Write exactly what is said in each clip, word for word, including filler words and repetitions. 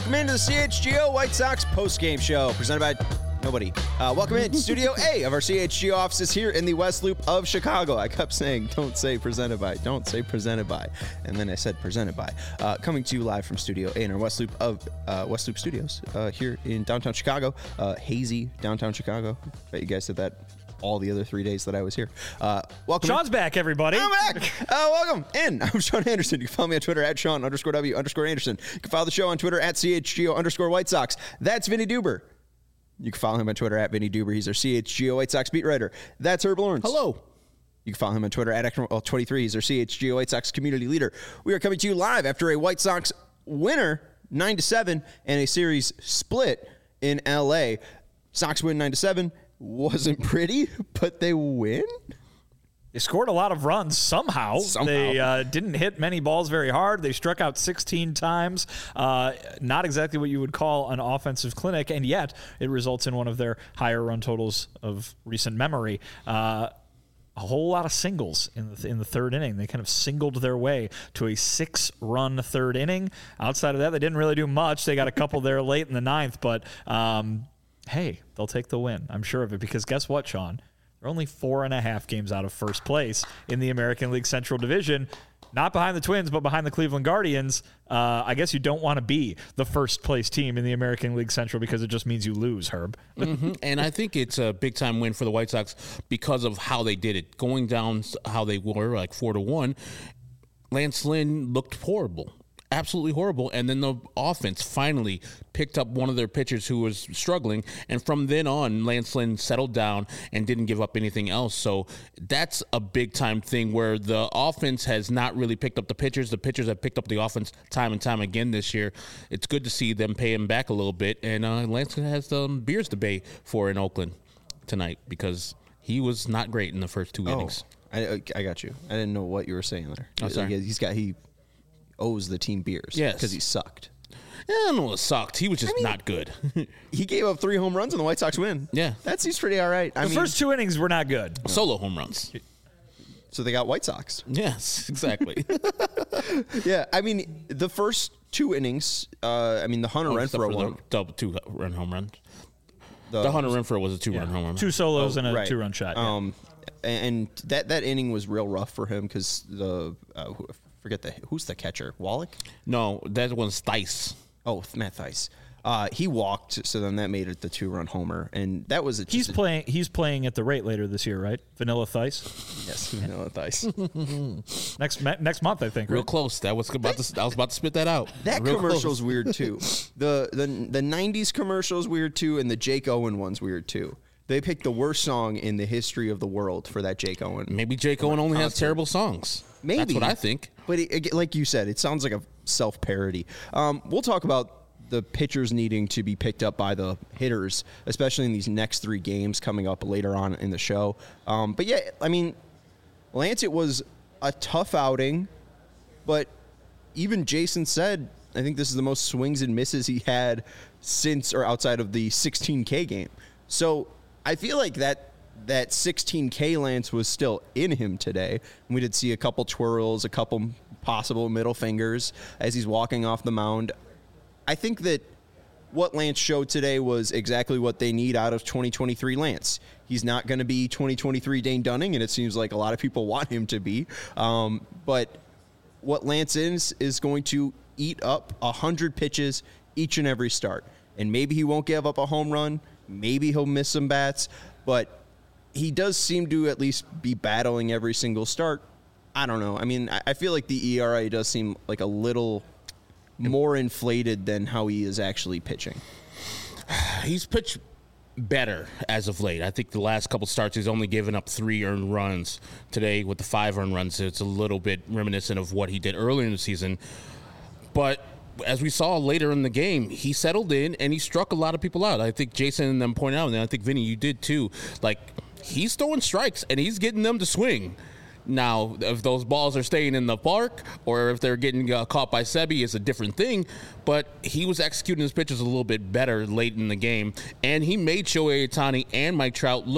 welcome into the C H G O White Sox post-game show presented by nobody. Uh, welcome into Studio A of our C H G O offices here in the West Loop of Chicago. I kept saying, don't say presented by, don't say presented by, and then I said presented by. Uh, coming to you live from Studio A in our West Loop of uh, West Loop Studios uh, here in downtown Chicago, uh, hazy downtown Chicago. Bet you guys said that all the other three days that I was here. Uh, welcome. Sean's in. back, everybody. I'm back. Uh, welcome in. I'm Sean Anderson. You can follow me on Twitter at Sean underscore W underscore Anderson. You can follow the show on Twitter at C H G O underscore White Sox. That's Vinny Duber. You can follow him on Twitter at Vinny Duber. He's our C H G O White Sox beat writer. That's Herb Lawrence. Hello. You can follow him on Twitter at Ekman twenty-three. He's our C H G O White Sox community leader. We are coming to you live after a White Sox winner, nine to seven, and a series split in L A. Sox win nine to seven. Wasn't pretty, but they win. They scored a lot of runs somehow. somehow. They uh, didn't hit many balls very hard. They struck out sixteen times. Uh, not exactly what you would call an offensive clinic, and yet it results in one of their higher run totals of recent memory. Uh, a whole lot of singles in the, in the third inning. They kind of singled their way to a six-run third inning. Outside of that, they didn't really do much. They got a couple there late in the ninth, but um, hey, they'll take the win. I'm sure of it, because guess what, Sean? They're only four and a half games out of first place in the American League Central Division. Not behind the Twins, but behind the Cleveland Guardians. Uh, I guess you don't want to be the first place team in the American League Central because it just means you lose, Herb. Mm-hmm. And I think it's a big-time win for the White Sox because of how they did it. Going down how they were, like four to one, Lance Lynn looked horrible. Absolutely horrible. And then the offense finally picked up one of their pitchers who was struggling. And from then on, Lance Lynn settled down and didn't give up anything else. So that's a big time thing where the offense has not really picked up the pitchers. The pitchers have picked up the offense time and time again this year. It's good to see them pay him back a little bit. And uh, Lance has um, beers to bay for in Oakland tonight because he was not great in the first two oh, innings. I, I got you. I didn't know what you were saying there. Oh, sorry. He's got, he owes the team beers. Yes. Because he sucked. Yeah, I don't know, it sucked. He was just I mean, not good. He gave up three home runs and the White Sox win. Yeah. That seems pretty all right. I The mean, first two innings were not good. Solo home runs. so they got White Sox. Yes, exactly. Yeah, I mean, the first two innings, uh, I mean, the Hunter Oh, Renfroe one. double two run home run. The, the Hunter Renfroe was a two run home run. Two solos Oh, and a right. two-run shot. Yeah. Um, and that, that inning was real rough for him because the, uh, who- forget the, who's the catcher? Wallach? No, that was Theis. Oh, Matt Theis. Uh, he walked, so then that made it the two-run homer, and that was a, just He's a, playing. He's playing at the rate later this year, right? Vanilla Thice. yes, Vanilla Theis. Next ma- next month, I think. Real Right? close. That was about to. I was about to spit that out. That Real commercial's close. weird too. The the the nineties commercial's weird too, and the Jake Owen one's weird too. They picked the worst song in the history of the world for that Jake Owen. Maybe Jake Owen only has concert. terrible songs. Maybe. That's what I think. But it, it- like you said, it sounds like a self-parody. Um, we'll talk about the pitchers needing to be picked up by the hitters, especially in these next three games coming up later on in the show. Um, but yeah, I mean, Lance, it was a tough outing, but even Jason said, I think this is the most swings and misses he had since or outside of the sixteen K game. So I feel like that that sixteen K Lance was still in him today. We did see a couple twirls, a couple possible middle fingers as he's walking off the mound. I think that what Lance showed today was exactly what they need out of twenty twenty-three Lance. He's not going to be twenty twenty-three Dane Dunning, and it seems like a lot of people want him to be. Um, but what Lance is is going to eat up one hundred pitches each and every start. And maybe he won't give up a home run. Maybe he'll miss some bats. But he does seem to at least be battling every single start. I don't know. I mean, I I feel like the E R A does seem like a little more inflated than how he is actually pitching. He's pitched better as of late. I think the last couple starts he's only given up three earned runs. Today with the five earned runs, it's a little bit reminiscent of what he did earlier in the season. But as we saw later in the game, he settled in and he struck a lot of people out. I think Jason and them pointed out, and I think Vinny, you did too. Like, he's throwing strikes and he's getting them to swing. Now, if those balls are staying in the park or if they're getting uh, caught by Sebi, it's a different thing. But he was executing his pitches a little bit better late in the game, and he made Shohei Ohtani and Mike Trout look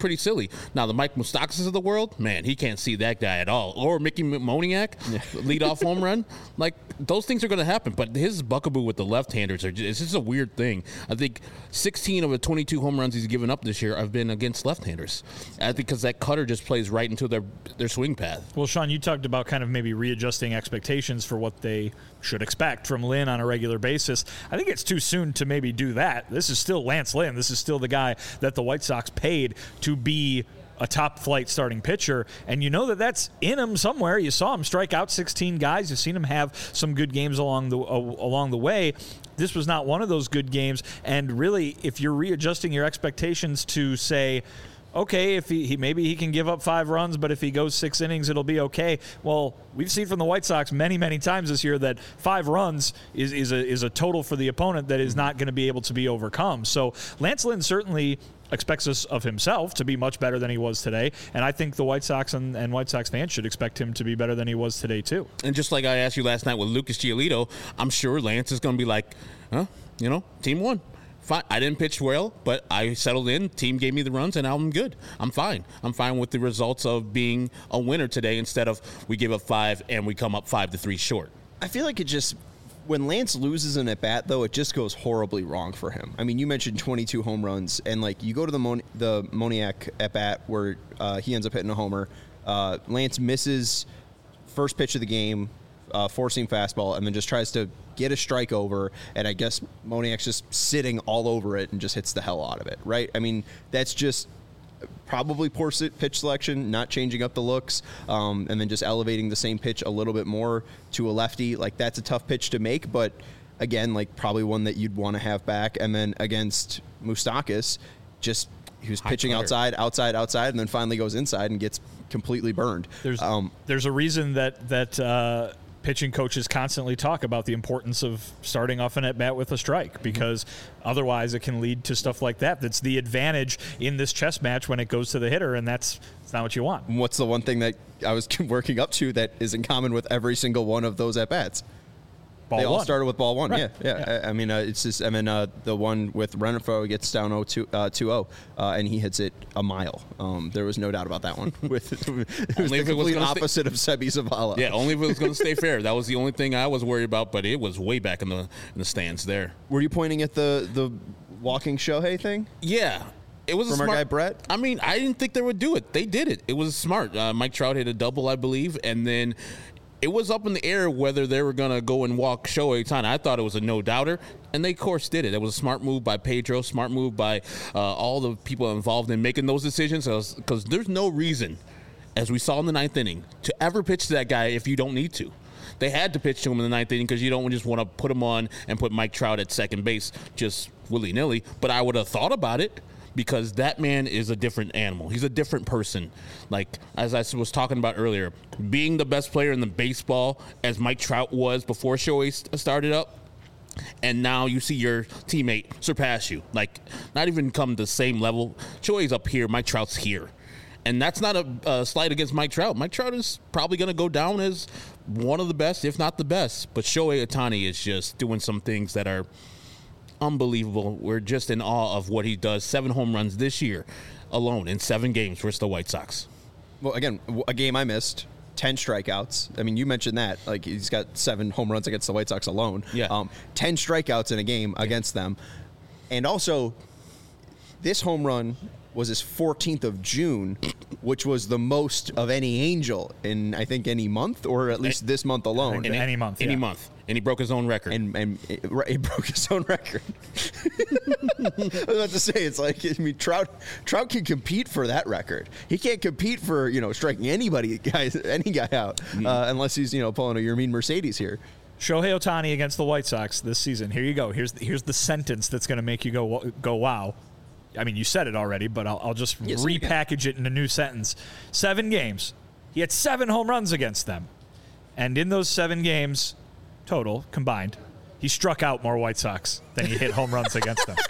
pretty silly. Now, the Mike Moustakas of the world, man, he can't see that guy at all. Or Mickey Moniak, yeah. leadoff home run. Like, those things are going to happen. But his buckaboo with the left-handers, are just, it's just a weird thing. I think sixteen of the twenty-two home runs he's given up this year have been against left-handers. I think because that cutter just plays right into their, their swing path. Well, Sean, you talked about kind of maybe readjusting expectations for what they should expect from Lynn on a regular basis. I think it's too soon to maybe do that. This is still Lance Lynn. This is still the guy that the White Sox paid to be a top-flight starting pitcher, and you know that that's in him somewhere. You saw him strike out sixteen guys. You've seen him have some good games along the uh, along the way. This was not one of those good games, and really, if you're readjusting your expectations to say, okay, if he, he maybe he can give up five runs, but if he goes six innings, it'll be okay. Well, we've seen from the White Sox many, many times this year that five runs is, is a is a total for the opponent that is not going to be able to be overcome. So Lance Lynn certainly expects us of himself to be much better than he was today, and I think the White Sox and, and White Sox fans should expect him to be better than he was today too. And just like I asked you last night with Lucas Giolito, I'm sure Lance is going to be like, huh, you know, team won. Fine. I didn't pitch well, but I settled in. Team gave me the runs, and now I'm good. I'm fine. I'm fine with the results of being a winner today instead of we give up five and we come up five to three short. I feel like it just when Lance loses an at bat, though, it just goes horribly wrong for him. I mean, you mentioned twenty-two home runs, and like you go to the Mon- the Moniak at bat where uh, he ends up hitting a homer. Uh, Lance misses first pitch of the game, uh, four-seam fastball, and then just tries to get a strike over, and I guess Moniak's just sitting all over it and just hits the hell out of it, right? I mean, that's just probably poor pitch selection, not changing up the looks, um, and then just elevating the same pitch a little bit more to a lefty. Like, that's a tough pitch to make, but again, like probably one that you'd want to have back. And then against Moustakas, just he was pitching High outside, outside, outside, and then finally goes inside and gets completely burned. There's um, there's a reason that that uh, pitching coaches constantly talk about the importance of starting off an at-bat with a strike, because otherwise it can lead to stuff like that. That's the advantage in this chess match when it goes to the hitter, and that's, that's not what you want. What's the one thing that I was working up to that is in common with every single one of those at-bats? Ball they all one. started with ball one. Right. Yeah, yeah. Yeah. I, I mean, uh, it's just, I mean, uh, the one with Renfroe gets down oh two, uh, two oh, uh, and he hits it a mile. Um, there was no doubt about that one. With it was Only the if it was complete gonna opposite stay- of Sebi Zavala. Yeah, only if it was going to stay fair. That was the only thing I was worried about, but it was way back in the in the stands there. Were you pointing at the the walking Shohei thing? Yeah. It was From a our smart, guy Brett? I mean, I didn't think they would do it. They did it. It was smart. Uh, Mike Trout hit a double, I believe, and then it was up in the air whether they were going to go and walk Shohei Ohtani. I thought it was a no-doubter, and they, of course, did it. It was a smart move by Pedro, smart move by uh, all the people involved in making those decisions, because there's no reason, as we saw in the ninth inning, to ever pitch to that guy if you don't need to. They had to pitch to him in the ninth inning because you don't just want to put him on and put Mike Trout at second base just willy-nilly, but I would have thought about it, because that man is a different animal. He's a different person. Like, as I was talking about earlier, being the best player in the baseball, as Mike Trout was before Shohei started up, and now you see your teammate surpass you. Like, not even come the same level. Shohei's up here, Mike Trout's here. And that's not a, a slight against Mike Trout. Mike Trout is probably going to go down as one of the best, if not the best. But Shohei Ohtani is just doing some things that are unbelievable. We're just in awe of what he does. Seven home runs this year alone in seven games versus the White Sox. Well, again, a game I missed, ten strikeouts. I mean, you mentioned that. Like, he's got seven home runs against the White Sox alone. Yeah. Um, ten strikeouts in a game yeah. against them. And also, this home run was his fourteenth of June, which was the most of any Angel in, I think, any month, or at least this month alone. In any month, Any yeah. month. And he broke his own record. And, and it, he broke his own record. I was about to say, it's like, I mean, Trout Trout can compete for that record. He can't compete for, you know, striking anybody, guys, any guy out, mm. uh, unless he's, you know, pulling a Yermin Mercedes here. Shohei Ohtani against the White Sox this season. Here you go. Here's the, here's the sentence that's going to make you go go wow. I mean, you said it already, but I'll, I'll just yes, repackage it in a new sentence. Seven games. He had seven home runs against them. And in those seven games, total, combined, he struck out more White Sox than he hit home runs against them.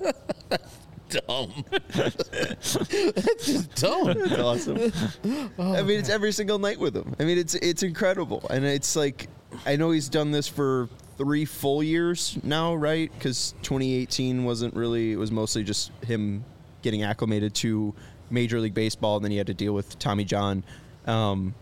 Dumb. That's just dumb. That's awesome. Oh, I mean, it's every single night with him. I mean, it's it's incredible. And it's like, I know he's done this for three full years now, right? Because twenty eighteen wasn't really, it was mostly just him getting acclimated to Major League Baseball, and then he had to deal with Tommy John. Um,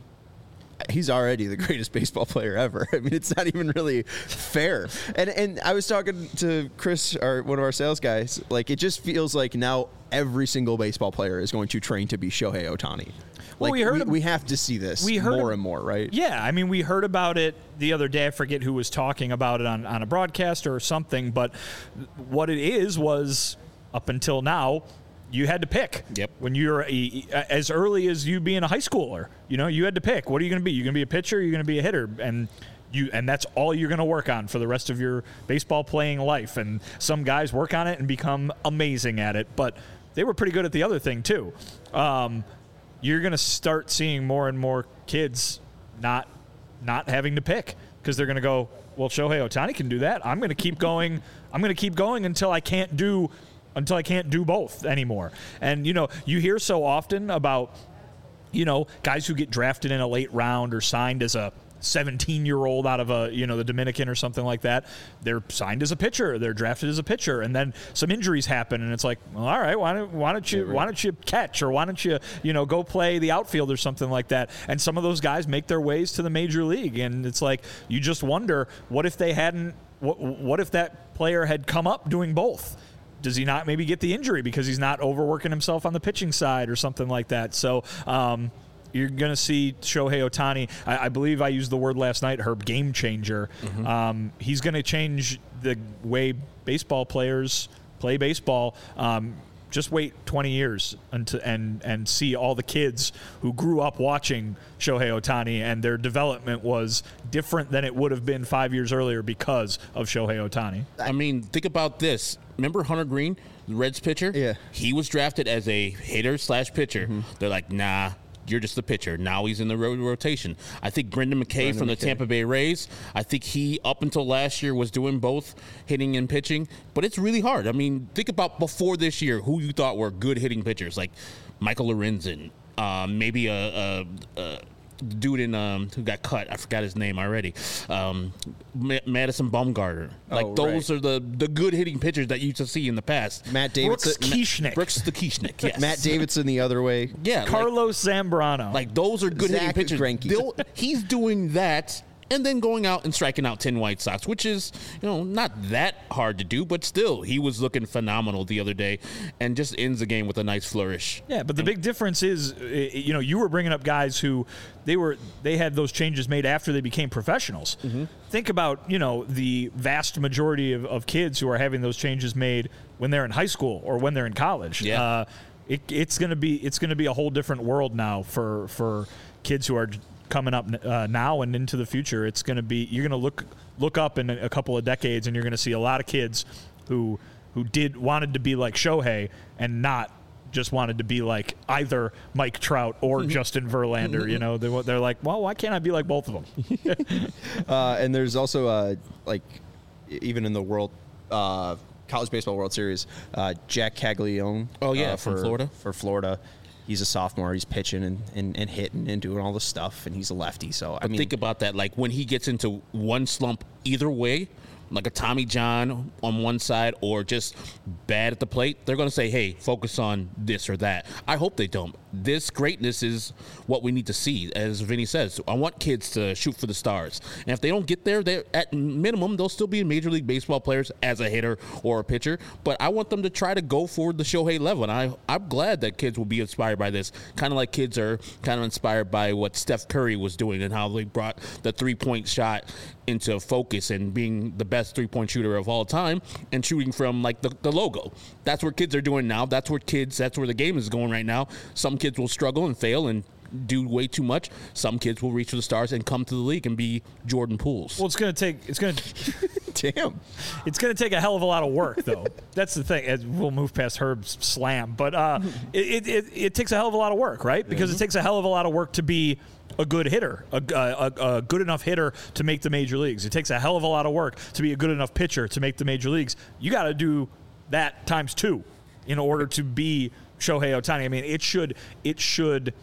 he's already the greatest baseball player ever. I mean, it's not even really fair. And and I was talking to Chris, our, one of our sales guys, like, it just feels like now every single baseball player is going to train to be Shohei Ohtani. Well, Like, we, heard we, we have to see this we heard more ab- and more, right? Yeah, I mean, we heard about it the other day. I forget who was talking about it on, on a broadcast or something, but what it is was, up until now, you had to pick. Yep. When you're a, as early as you being a high schooler, you know, you had to pick. What are you going to be? You're going to be a pitcher, you're going to be a hitter, and you and that's all you're going to work on for the rest of your baseball playing life. And some guys work on it and become amazing at it, but they were pretty good at the other thing too. Um, you're going to start seeing more and more kids not not having to pick because they're going to go, well, Shohei Ohtani can do that. I'm going to keep going. I'm going to keep going until I can't do until I can't do both anymore. And, you know, you hear so often about, you know, guys who get drafted in a late round or signed as a seventeen-year-old out of a, you know, the Dominican or something like that. They're signed as a pitcher. They're drafted as a pitcher, and then some injuries happen, and it's like, well, all right, why don't why don't you why don't you catch, or why don't you you know go play the outfield or something like that? And some of those guys make their ways to the major league, and it's like you just wonder, what if they hadn't? What what if that player had come up doing both? Does he not maybe get the injury because he's not overworking himself on the pitching side or something like that? So. Um, You're going to see Shohei Ohtani. I, I believe I used the word last night, Herb, game changer. Mm-hmm. Um, he's going to change the way baseball players play baseball. Um, just wait twenty years until, and and see all the kids who grew up watching Shohei Ohtani, and their development was different than it would have been five years earlier because of Shohei Ohtani. I mean, think about this. Remember Hunter Green, the Reds pitcher? Yeah. He was drafted as a hitter slash pitcher. Mm-hmm. They're like, nah. You're just the pitcher. Now he's in the ro- rotation. I think Brendan McKay Brendan from the McKay. Tampa Bay Rays, I think he, up until last year, was doing both hitting and pitching. But it's really hard. I mean, think about before this year who you thought were good hitting pitchers, like Michael Lorenzen, uh, maybe a, a, a dude in um, who got cut. I forgot his name already. Um, Ma- Madison Bumgarner. Like oh, those right. are the, the good hitting pitchers that you used to see in the past. Matt Davidson. Brooks Kieschnick. Brooks the Kieschnick, yes. Matt Davidson the other way. Yeah. Carlos like, Zambrano. Like those are good Zach hitting pitchers. They'll- He's doing that and then going out and striking out ten White Sox, which is, you know, not that hard to do, but still, he was looking phenomenal the other day and just ends the game with a nice flourish. Yeah, but the big difference is, you know, you were bringing up guys who they were they had those changes made after they became professionals. Mm-hmm. Think about, you know, the vast majority of, of kids who are having those changes made when they're in high school or when they're in college. Yeah. Uh, it, it's gonna be it's gonna be a whole different world now for for kids who are coming up uh, now and into the future. It's going to be, you're going to look look up in a, a couple of decades, and you're going to see a lot of kids who who did wanted to be like Shohei and not just wanted to be like either Mike Trout or Justin Verlander. You know, they, they're like, well, why can't I be like both of them? uh, and there's also uh, like even in the world uh, college baseball World Series, uh, Jack Caglione. Oh yeah, uh, from for, Florida. For Florida. He's a sophomore. He's pitching and, and, and hitting and doing all this stuff, and he's a lefty. So I but mean, think about that. Like when he gets into one slump, either way, like a Tommy John on one side or just bad at the plate, they're going to say, hey, focus on this or that. I hope they don't. This greatness is what we need to see. As Vinny says, I want kids to shoot for the stars. And if they don't get there, they at minimum, they'll still be Major League Baseball players as a hitter or a pitcher. But I want them to try to go for the Shohei level. And I, I'm glad that kids will be inspired by this. Kind of like kids are kind of inspired by what Steph Curry was doing and how they brought the three-point shot into focus and being the best three-point shooter of all time and shooting from like the, the logo. That's what kids are doing now. That's where kids, that's where the game is going right now. Some kids will struggle and fail and do way too much. Some kids will reach for the stars and come to the league and be Jordan Pools. Well, it's going to take, it's going to, damn, it's going to take a hell of a lot of work, though. That's the thing. As we'll move past Herb's slam, but uh, it, it, it takes a hell of a lot of work, right? Because mm-hmm. it takes a hell of a lot of work to be a good hitter, a, a, a good enough hitter to make the major leagues. It takes a hell of a lot of work to be a good enough pitcher to make the major leagues. You got to do that times two in order to be Shohei Ohtani. I mean, it should, it should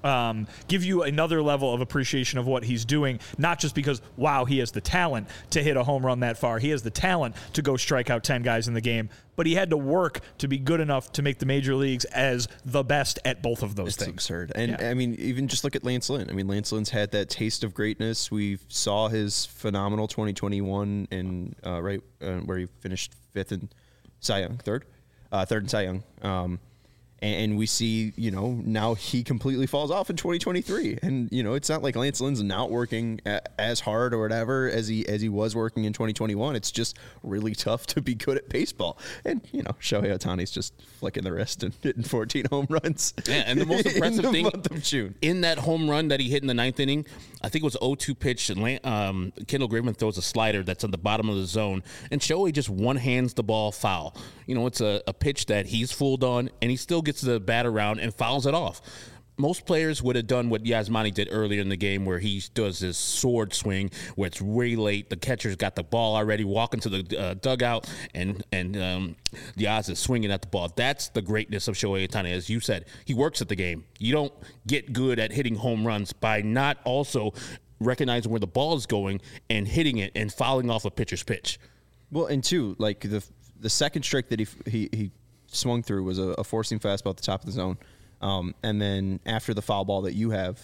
um, give you another level of appreciation of what he's doing, not just because, wow, he has the talent to hit a home run that far. He has the talent to go strike out ten guys in the game, but he had to work to be good enough to make the major leagues as the best at both of those it's things. absurd. And, Yeah. I mean, even just look at Lance Lynn. I mean, Lance Lynn's had that taste of greatness. We saw his phenomenal twenty twenty-one in, uh, right, uh, where he finished fifth in Cy Young, third? Uh, third in Cy Young. Um, And we see, you know, now he completely falls off in twenty twenty-three. And, you know, it's not like Lance Lynn's not working a, as hard or whatever as he as he was working in twenty twenty-one. It's just really tough to be good at baseball. And, you know, Shohei Ohtani's just flicking the wrist and hitting fourteen home runs. Yeah, and the most impressive in the thing month of June. in that home run that he hit in the ninth inning, I think it was oh two pitch. And um, Kendall Graveman throws a slider that's on the bottom of the zone, and Shohei just one hands the ball foul. You know, it's a, a pitch that he's fooled on, and he still gets the bat around and fouls it off. Most players would have done what Yasmani did earlier in the game, where he does this sword swing, where it's way late. The catcher's got the ball already, walking to the uh, dugout, and and um, Yaz is swinging at the ball. That's the greatness of Shohei Ohtani. As you said, he works at the game. You don't get good at hitting home runs by not also recognizing where the ball is going and hitting it and fouling off a pitcher's pitch. Well, and two, like the the second strike that he he, he swung through was a, a four seam fastball at the top of the zone. Um, and then after the foul ball that you have,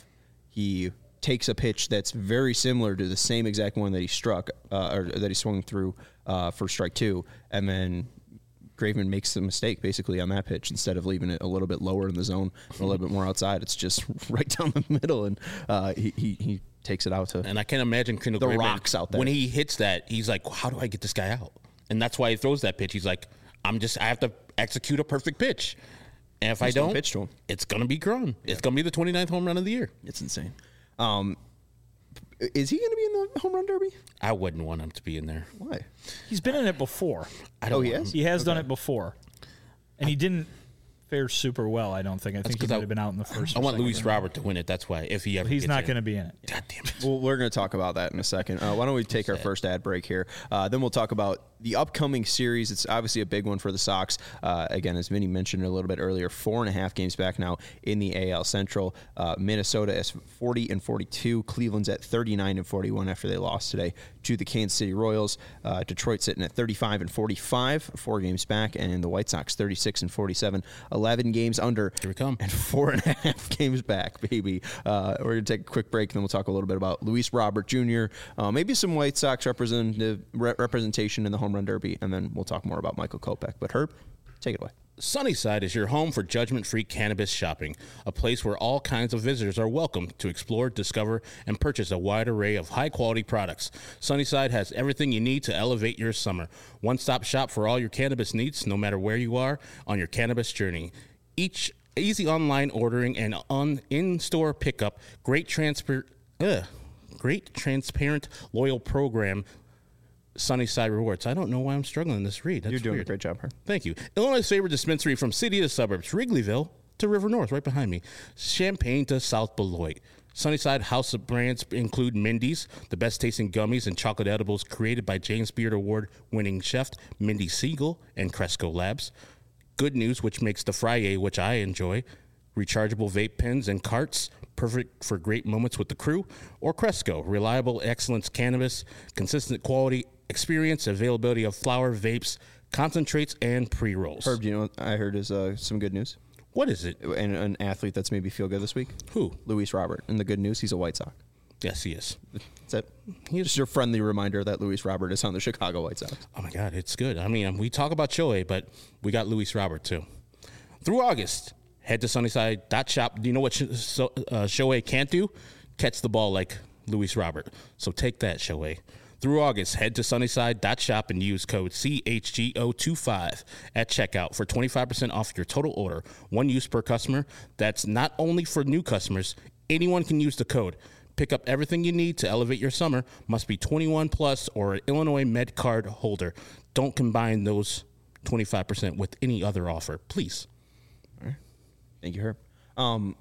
he takes a pitch that's very similar to the same exact one that he struck uh, or that he swung through uh, for strike two. And then Graveman makes the mistake basically on that pitch. Instead of leaving it a little bit lower in the zone, a little bit more outside, it's just right down the middle. And uh, he, he, he takes it out to And I can't imagine Kendall the Graveman, rocks out there. when he hits that, he's like, how do I get this guy out? And that's why he throws that pitch. He's like, I'm just, I have to execute a perfect pitch. And if I Just don't don't, pitch to him. it's going to be Cron. Yeah. It's going to be the twenty-ninth home run of the year. It's insane. Um, is he going to be in the home run derby? I wouldn't want him to be in there. Why? He's been in it before. I don't Oh, he want has? him. He has done Okay. it before. And he didn't fare super well, I don't think. I think he 'cause might I- have been out in the first. I or want second Luis round. Robert to win it. That's why. If he ever He's gets not in. going to be in it. God damn it. Well, we're going to talk about that in a second. Uh, why don't we take our first ad break here? Uh, then we'll talk about the upcoming series. It's obviously a big one for the Sox. Uh, again, as Vinny mentioned a little bit earlier, four and a half games back now in the A L Central. Uh, Minnesota is forty and forty-two. Cleveland's at thirty-nine and forty-one after they lost today to the Kansas City Royals. Uh, Detroit sitting at thirty-five and forty-five, four games back, and the White Sox thirty-six and forty-seven, eleven games under. Here we come. And four and a half games back, baby. Uh, we're going to take a quick break, and then we'll talk a little bit about Luis Robert Junior, uh, maybe some White Sox representative, re- representation in the home run derby, and then we'll talk more about Michael Kopech. But Herb, take it away. Sunnyside is your home for judgment-free cannabis shopping, a place where all kinds of visitors are welcome to explore, discover, and purchase a wide array of high-quality products. Sunnyside has everything you need to elevate your summer. One-stop shop for all your cannabis needs, no matter where you are on your cannabis journey. Each easy online ordering and on in-store pickup, great transfer, ugh, great transparent loyal program. Sunnyside Rewards. I don't know why I'm struggling this read. That's You're doing weird. a great job, Herb. Thank you. Illinois' favorite dispensary from city to suburbs, Wrigleyville to River North, right behind me. Champaign to South Beloit. Sunnyside house of brands include Mindy's, the best tasting gummies and chocolate edibles created by James Beard Award winning chef Mindy Siegel and Cresco Labs. Good News, which makes the Friday, which I enjoy. Rechargeable vape pens and carts, perfect for great moments with the crew. Or Cresco, reliable excellence cannabis, consistent quality, experience, availability of flower, vapes, concentrates, and pre-rolls. Herb, do you know what I heard is uh, some good news? What is it? And an athlete that's made me feel good this week? Who? Luis Robert. And the good news, he's a White Sox. Yes, he is. That's it. Just your friendly reminder that Luis Robert is on the Chicago White Sox. Oh, my God, it's good. I mean, we talk about Shohei, but we got Luis Robert, too. Through August, head to Sunnyside dot shop. Do you know what Sh- so, uh, Shohei can't do? Catch the ball like Luis Robert. So take that, Shohei. Through August, head to Sunnyside dot shop and use code C H G O twenty-five at checkout for twenty-five percent off your total order. One use per customer. That's not only for new customers. Anyone can use the code. Pick up everything you need to elevate your summer. Must be twenty-one plus or an Illinois Med card holder. Don't combine those twenty-five percent with any other offer, please. All right. Thank you, Herb. Um,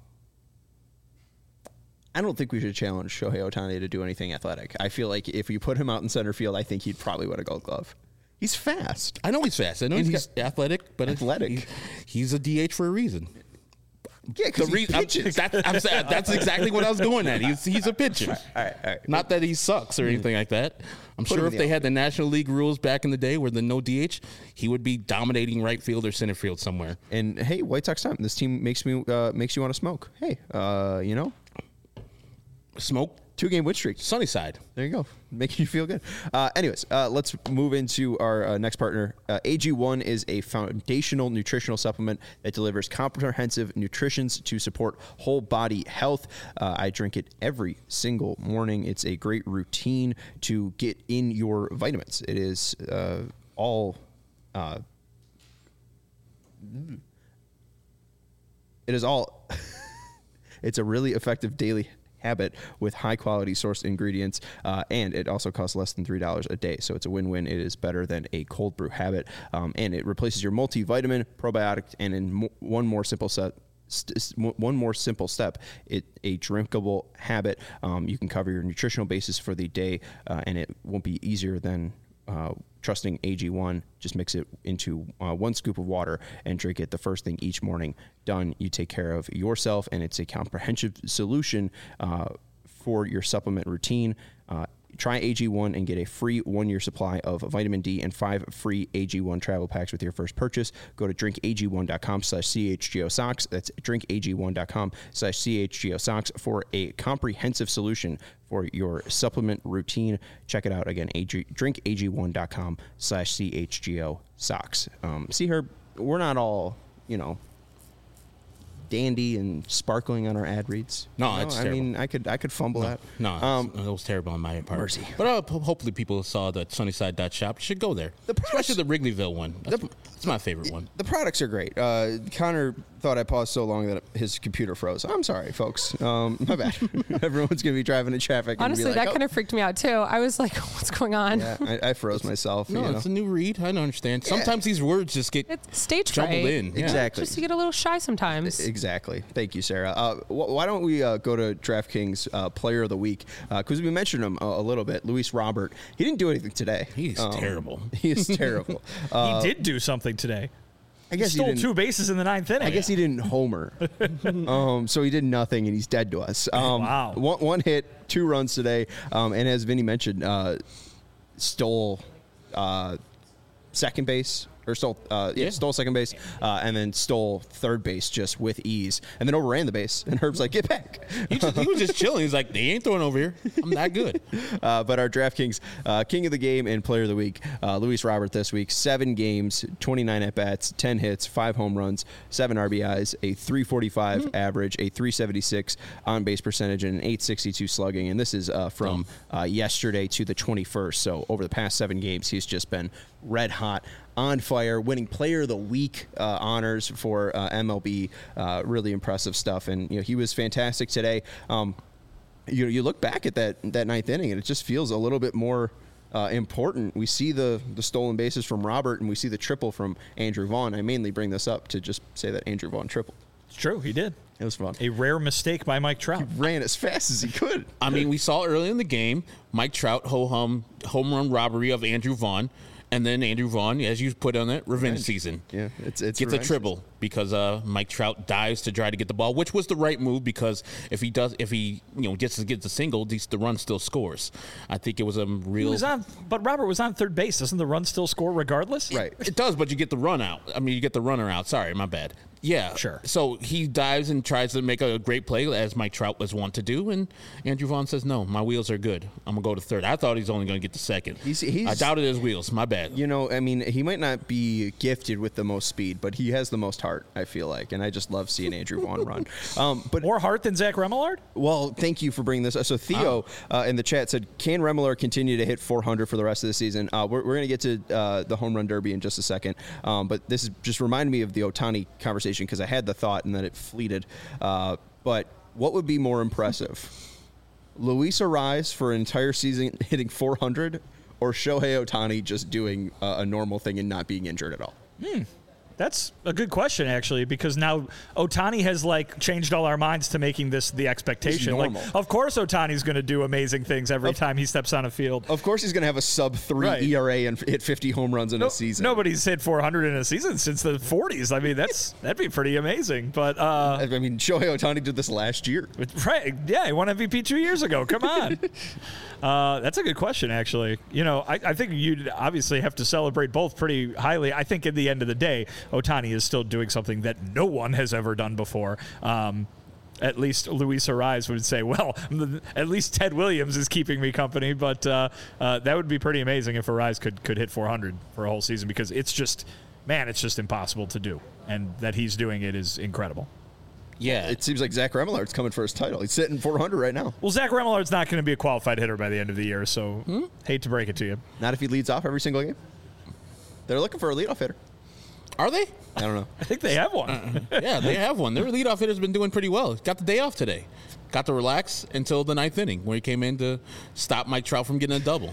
I don't think we should challenge Shohei Ohtani to do anything athletic. I feel like if we put him out in center field, I think he'd probably win a Gold Glove. He's fast. I know he's fast. I know And he's, he's athletic, but athletic. He, he's a D H for a reason. Yeah, because he re- I'm, pitches. that, I'm saying, that's exactly what I was going at. He's he's a pitcher. All right, all right. Not that he sucks or anything like that. I'm Put him sure in if the they had the National League rules back in the day where the no D H, he would be dominating right field or center field somewhere. And hey, White Sox time. This team makes me uh, makes you want to smoke. Hey, uh, you know, Smoke, two game win streak. sunny side. There you go, making you feel good. Uh, anyways, uh, let's move into our uh, next partner. Uh, A G one is a foundational nutritional supplement that delivers comprehensive nutrition to support whole body health. Uh, I drink it every single morning. It's a great routine to get in your vitamins. It is uh, all. Uh, it is all. It's a really effective daily habit with high quality sourced ingredients, uh, and it also costs less than three dollars a day, so it's a win-win. It is better than a cold brew habit, um, and it replaces your multivitamin, probiotic, and in mo- one more simple set St- one more simple step, it a drinkable habit. Um, you can cover your nutritional basis for the day, uh, and it won't be easier than uh, trusting A G one. Just mix it into uh, one scoop of water and drink it the first thing each morning. Done. You take care of yourself, and it's a comprehensive solution uh, for your supplement routine. Uh, Try A G one and get a free one-year supply of vitamin D and five free A G one travel packs with your first purchase. Go to drinkag1.com slash chgosocks. That's drinkag1.com slash chgosocks for a comprehensive solution for your supplement routine. Check it out again, drinkag1.com slash chgosocks. Um, see her, we're not all, you know, dandy and sparkling on our ad reads. No, you know? it's I terrible. mean, I could I could fumble No, that. no, Um, it was terrible on my part. Mercy. But uh, ho- hopefully people saw the Sunnyside dot shop. You should go there, The products- especially the Wrigleyville one. That's, that's my favorite one. The products are great. Uh, Connor thought I paused so long that his computer froze. I'm sorry, folks. Um, my bad. Everyone's going to be driving in traffic. And Honestly, be like, that oh. kind of freaked me out too. I was like, what's going on? Yeah, I, I froze myself. No, you know? it's a new read. I don't understand. Sometimes these words just get It's stage jumbled fright. in. Yeah. Exactly. Just to get a little shy sometimes. Exactly. Thank you, Sarah. Uh, wh- why don't we uh, go to DraftKings uh, Player of the Week? Because we mentioned him a, a little bit. Luis Robert. He didn't do anything today. He's Um, terrible. He is terrible. Uh, he did do something today. I He guess he stole didn't- two bases in the ninth inning. I guess he didn't homer. um, so he did nothing, and he's dead to us. Um, Wow. One, one hit, two runs today, um, and as Vinny mentioned, uh, stole uh, second base. Or stole, uh, yeah, Yeah. stole second base, uh, and then stole third base just with ease, and then overran the base. And Herb's like, "Get back!" He, just, he was just chilling. He's like, they ain't throwing over here. I'm that good. Uh, but our DraftKings uh, King of the Game and Player of the Week, uh, Luis Robert this week, seven games, twenty-nine at-bats, ten hits, five home runs, seven R B Is, a three forty-five mm-hmm. average, a three seventy-six on-base percentage, and an eight sixty-two slugging. And this is uh, from uh, yesterday to the twenty-first. So over the past seven games, he's just been red hot, on fire, winning Player of the Week uh, honors for uh, M L B. Uh, really impressive stuff. And you know he was fantastic today. Um, You you look back at that that ninth inning, and it just feels a little bit more uh, important. We see the the stolen bases from Robert, and we see the triple from Andrew Vaughn. I mainly bring this up to just say that Andrew Vaughn tripled. It's true. He did. It was fun. A rare mistake by Mike Trout. Ran as fast as he could. I mean, we saw early in the game Mike Trout ho hum home run robbery of Andrew Vaughn, and then Andrew Vaughn, as you put on it, revenge season. Yeah, it's it's Gets a revenge. triple because uh, Mike Trout dives to try to get the ball, which was the right move because if he does, if he you know gets to get the single, the, the run still scores. I think it was a He real. was on, but Robert was on third base. Doesn't the run still score regardless? Right. It does, but you get the run out. I mean, you get the runner out. Sorry, my bad. Yeah, Sure. So he dives and tries to make a great play, as Mike Trout was wont to do, and Andrew Vaughn says, "No, my wheels are good. I'm gonna go to third." I thought he's only gonna get to second. He's- he's- I doubted his wheels. My bad. You know, I mean, he might not be gifted with the most speed, but he has the most heart, I feel like. And I just love seeing Andrew Vaughn run. Um, but More heart than Zach Remillard? Well, thank you for bringing this. So Theo uh, in the chat said, "Can Remillard continue to hit four hundred for the rest of the season?" Uh, we're we're going to get to uh, the home run derby in just a second, um, but this is just reminded me of the Ohtani conversation because I had the thought and then it fleeted. Uh, but what would be more impressive, Luis Ariz for an entire season hitting four hundred, or Shohei Ohtani just doing uh, a normal thing and not being injured at all? That's a good question, actually, because now Ohtani has like changed all our minds to making this the expectation. Like, of course, Ohtani's going to do amazing things every of, time he steps on a field. Of course, he's going to have a sub three right. E R A and hit fifty home runs in no, a season. Nobody's hit four hundred in a season since the forties. I mean, that's that'd be pretty amazing. But uh, I mean, Shohei Ohtani did this last year, right? Yeah, he won M V P two years ago. Come on. Uh, that's a good question, actually. You know, I, I think you'd obviously have to celebrate both pretty highly. I think at the end of the day, Ohtani is still doing something that no one has ever done before. Um, at least Luis Arraez would say, well, at least Ted Williams is keeping me company. But uh, uh, that would be pretty amazing if Arraez could, could hit four hundred for a whole season, because it's just, man, it's just impossible to do. And that he's doing it is incredible. Yeah, it seems like Zach Remelard's coming for his title. He's sitting four hundred right now. Well, Zach Remelard's not going to be a qualified hitter by the end of the year, so hmm? hate to break it to you. Not if he leads off every single game. They're looking for a leadoff hitter. Are they? I don't know. I think they have one. uh, yeah, they have one. Their leadoff hitter's been doing pretty well. Got the day off today. Got to relax until the ninth inning, where he came in to stop Mike Trout from getting a double.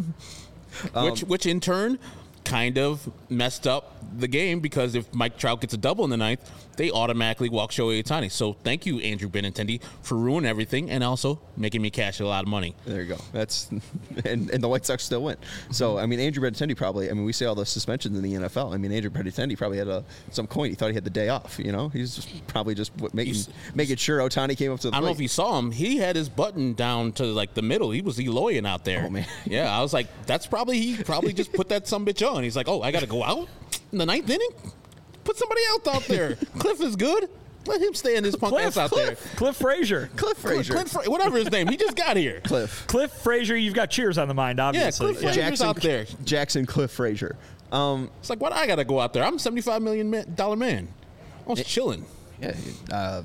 um, which, which in turn kind of messed up the game, because if Mike Trout gets a double in the ninth, they automatically walk Shohei Ohtani. So thank you, Andrew Benintendi, for ruining everything and also making me cash a lot of money. There you go. That's and, and the White Sox still win. So I mean, Andrew Benintendi probably. I mean, we see all the suspensions in the N F L. I mean, Andrew Benintendi probably had a, some coin. He thought he had the day off. You know, he's just probably just making he's, making sure Ohtani came up to the I don't plate. know if you saw him. He had his button down to like the middle. He was Eloyan out there. Oh man. Yeah, I was like, that's probably he probably just put that sumbitch on. He's like, oh, I got to go out in the ninth inning. Put somebody else out there. Cliff is good. Let him stay in his punk Cliff, ass out Cliff, there. Cliff Frazier. Cliff Frazier. Cliff, Cliff, whatever his name. He just got here. Cliff. Cliff Frazier. You've got Cheers on the mind, obviously. Yeah, Cliff Frazier's Jackson, out there. Jackson Cliff Frazier. Um, it's like, what? I got to go out there. I'm a seventy-five million dollar man. I was it, chilling. Yeah. Uh,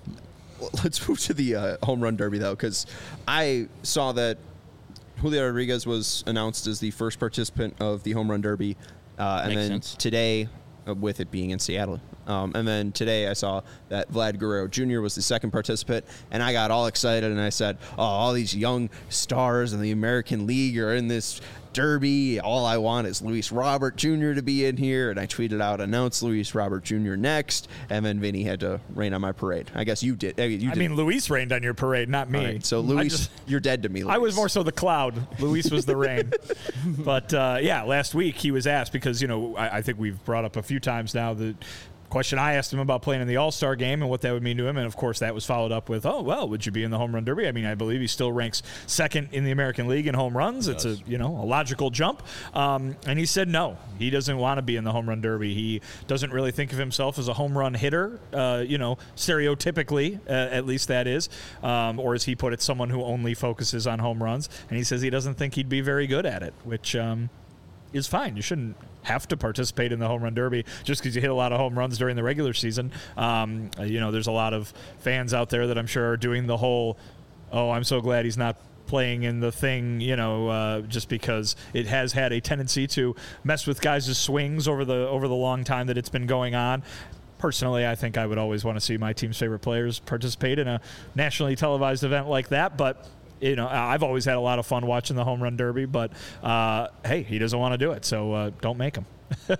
let's move to the uh, home run derby, though, because I saw that Julio Rodriguez was announced as the first participant of the home run derby. Uh, and Makes then sense. today, uh, with it being in Seattle. Um, and then today I saw that Vlad Guerrero Junior was the second participant, and I got all excited, and I said, oh, all these young stars in the American League are in this derby. All I want is Luis Robert Junior to be in here. And I tweeted out, announce Luis Robert Junior next, and then Vinny had to rain on my parade. I guess you did. I mean, you I did. mean Luis rained on your parade, not me. Right, so Luis, just, you're dead to me, Luis. I was more so the cloud. Luis was the rain. But, uh, yeah, last week he was asked, because, you know, I, I think we've brought up a few times now that question I asked him about playing in the All-Star game and what that would mean to him, and of course that was followed up with, oh, well, would you be in the home run derby? I mean, I believe he still ranks second in the American League in home runs. It's a, you know, a logical jump. Um, and he said no, he doesn't want to be in the home run derby. He doesn't really think of himself as a home run hitter, uh, you know, stereotypically, uh, at least that is, um, or as he put it, someone who only focuses on home runs. And he says he doesn't think he'd be very good at it, which um, is fine. You shouldn't have to participate in the home run derby just because you hit a lot of home runs during the regular season. Um, you know, there's a lot of fans out there that I'm sure are doing the whole, oh, I'm so glad he's not playing in the thing, you know, uh, just because it has had a tendency to mess with guys' swings over the over the long time that it's been going on. Personally, I think I would always want to see my team's favorite players participate in a nationally televised event like that, but you know, I've always had a lot of fun watching the home run derby, but uh, hey, he doesn't want to do it, so uh, don't make him.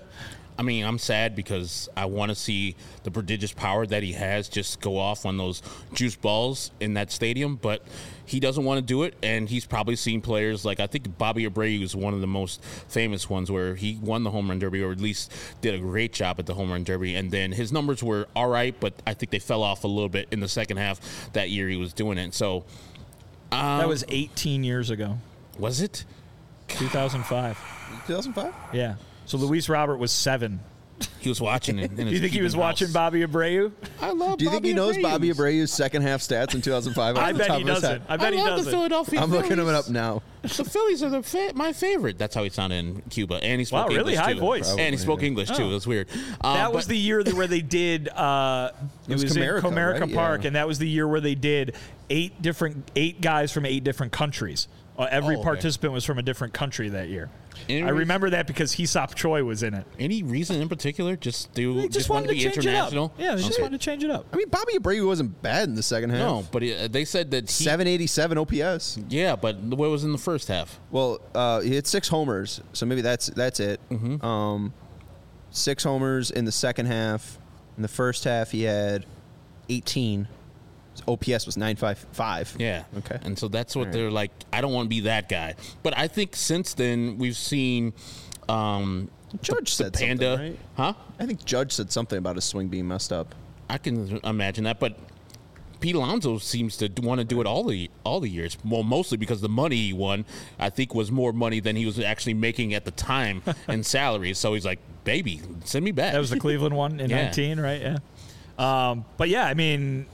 I mean, I'm sad because I want to see the prodigious power that he has just go off on those juice balls in that stadium, but he doesn't want to do it, and he's probably seen players like, I think Bobby Abreu is one of the most famous ones where he won the home run derby, or at least did a great job at the home run derby, and then his numbers were all right, but I think they fell off a little bit in the second half that year he was doing it. So Um, that was eighteen years ago. Was it? two thousand five. two thousand five? Yeah. So Luis Robert was seven. He was watching it. Do you think he was house. watching Bobby Abreu? I love. Do you Bobby think he knows Abreu. Bobby Abreu's second half stats in two thousand five? I bet he doesn't. I bet I he love doesn't. The Philadelphia I'm Phillies. looking him up now. The Phillies are the fa- my favorite. That's how he sounded in Cuba, and he spoke wow, really English high too. voice. Probably, and he spoke yeah. English too. Oh. It was weird. Um, That was but- the year that where they did. Uh, it, was was Comerica, in Comerica right? Park, Yeah. and that was the year where they did eight different eight guys from eight different countries. Uh, every Oh, okay. participant was from a different country that year. Any I reason- remember that because Hesop Choi was in it. Any reason in particular? Just do. They just, wanted to to be change international. it up. Yeah, they just Okay. wanted to change it up. I mean, Bobby Abreu wasn't bad in the second half. No, but uh, they said that he, seven eighty-seven O P S. Yeah, but what was in the first half? Well, uh, he hit six homers, so maybe that's that's it. Mm-hmm. Um, six homers in the second half. In the first half, he had eighteen. His O P S was nine fifty-five. Yeah. Okay. And so that's what All right. they're like. I don't want to be that guy. But I think since then we've seen um, Judge the, said the Panda, something, right? huh? I think Judge said something about his swing being messed up. I can imagine that, but Pete Alonso seems to want to do it all the all the years. Well, mostly because the money he won, I think, was more money than he was actually making at the time in salary. So he's like, "Baby, send me back." That was the Cleveland one in Yeah. nineteen, right? Yeah. Um, but yeah, I mean,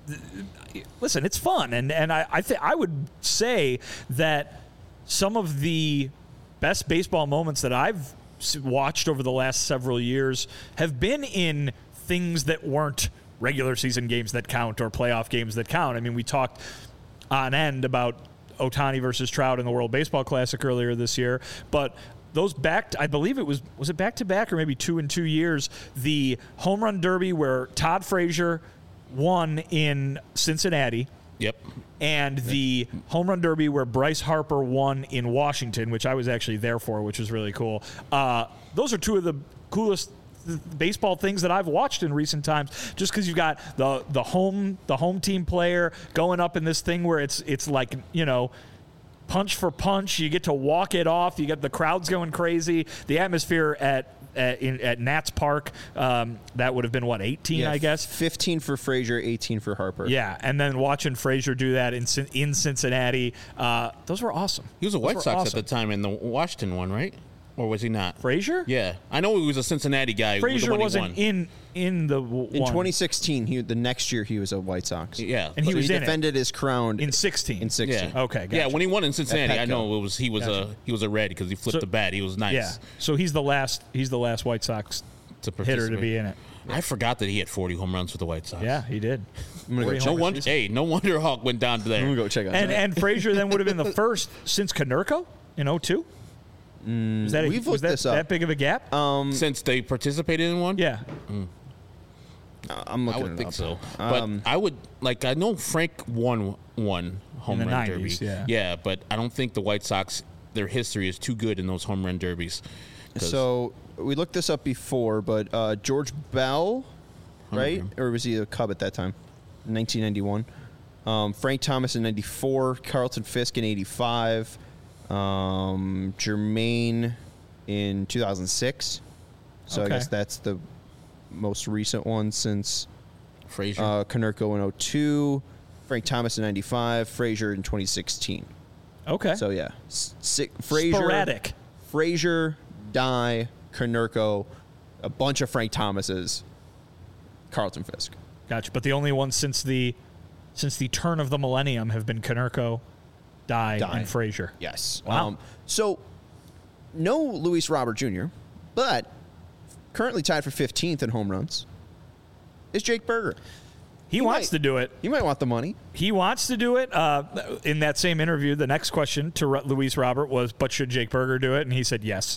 th- listen, it's fun, and and I I, th- I would say that some of the best baseball moments that I've s- watched over the last several years have been in things that weren't regular season games that count or playoff games that count. I mean, we talked on end about Ohtani versus Trout in the World Baseball Classic earlier this year, but those back, I believe it was, was it back to back or maybe two in two years, the home run derby where Todd Frazier won in Cincinnati. Yep. And the home run derby where Bryce Harper won in Washington, which I was actually there for, which was really cool. Uh, those are two of the coolest th- baseball things that I've watched in recent times. Just because you've got the the home the home team player going up in this thing where it's it's like, you know, punch for punch. You get to walk it off. You get the crowds going crazy. The atmosphere at at, in, at Nats Park, um, that would have been, what, eighteen, Yeah, I guess? fifteen for Frazier, eighteen for Harper. Yeah, and then watching Frazier do that in Cin- in Cincinnati, uh, those were awesome. He was a Those White were Sox awesome. at the time in the Washington one, right? Or was he not? Frazier? Yeah, I know he was a Cincinnati guy. the Frazier one he wasn't won. in in the w- In one. twenty sixteen, he the next year he was a White Sox. Yeah, And he So was he in it. defended his crown in sixteen. in sixteen. Yeah. Okay, Yeah, gotcha. when he won in Cincinnati, I Petco. know it was he was Gotcha. a he was a red because he flipped So- the bat. He was nice. Yeah, so he's the last. He's the last White Sox to hitter to participate. be in it. I forgot that he had forty home runs with the White Sox. Yeah, he did. I'm gonna go forty check. No homers. wonder. Hey, no wonder Hawk went down to there. I'm gonna go check on And that. and Frazier then would have been the first since Konerko in oh two. Was that a, we've was looked that, this up. that big of a gap? Um, Since they participated in one. yeah. I'm I looking would it think up. so. But Um, I would like. I know Frank won one home the run nineties, derby. yeah. yeah, but I don't think the White Sox, their history is too good in those home run derbies. 'Cause- So we looked this up before, but uh, George Bell, right? him. Or was he a Cub at that time? nineteen ninety-one. Um, Frank Thomas in ninety-four. Carlton Fisk in eighty-five. Um, Jermaine in two thousand six. So Okay. I guess that's the most recent one since Frazier. uh, Konerko in oh two. Frank Thomas in ninety-five. Frazier in twenty sixteen. Okay. So yeah, S- si- Frazier, Sporadic. Frazier, Dye, Konerko, a bunch of Frank Thomases, Carlton Fisk. Gotcha. But the only ones since the since the turn of the millennium have been Konerko, Dye, Dye. and Frazier. Yes. Wow. Um, so no Luis Robert Junior, but currently tied for fifteenth in home runs is Jake Berger. He, He wants might- to do it. You might want the money. He wants to do it. Uh, in that same interview, the next question to Ru- Luis Robert was, "But should Jake Berger do it?" And he said yes.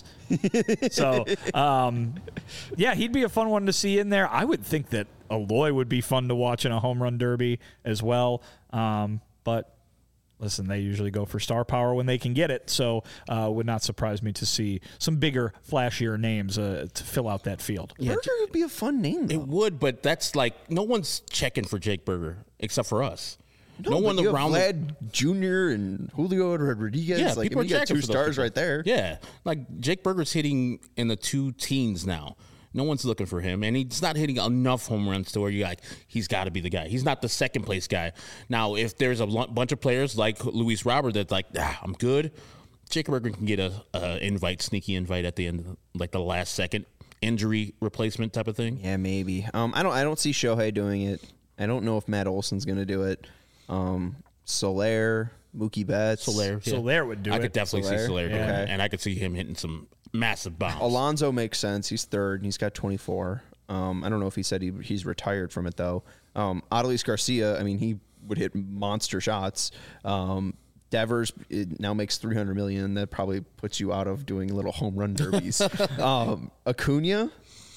so, um, yeah, he'd be a fun one to see in there. I would think that Aloy would be fun to watch in a home run derby as well. Um, but listen, they usually go for star power when they can get it. So, uh, would not surprise me to see some bigger, flashier names uh, to fill out that field. Berger would be a fun name. it Though. would, but that's like no one's checking for Jake Berger except for us. No, but one you have around. the- Vlad Junior and Julio Rodriguez. Yeah, like, I people mean, are you got checking two for those stars people. right there. Yeah, like Jake Berger's hitting in the two teens now. No one's looking for him, and he's not hitting enough home runs to where you're like, he's got to be the guy. He's not the second place guy. Now, if there's a l- bunch of players like Luis Robert that's like, ah, I'm good, Jake Berger can get a, a invite, sneaky invite at the end, of, like the last second injury replacement type of thing. Yeah, maybe. Um, I don't. I don't see Shohei doing it. I don't know if Matt Olson's going to do it. Um, Soler, Mookie Betts, Soler, yeah. Soler would do I it. could definitely see Soler? Soler doing Okay. it, and I could see him hitting some massive bombs. Alonso makes sense. He's third, and he's got twenty-four. Um, I don't know if he said he, he's retired from it though. Um, Adolis Garcia. I mean, he would hit monster shots. Um, Devers it now makes three hundred million. That probably puts you out of doing little home run derbies. um, Acuna,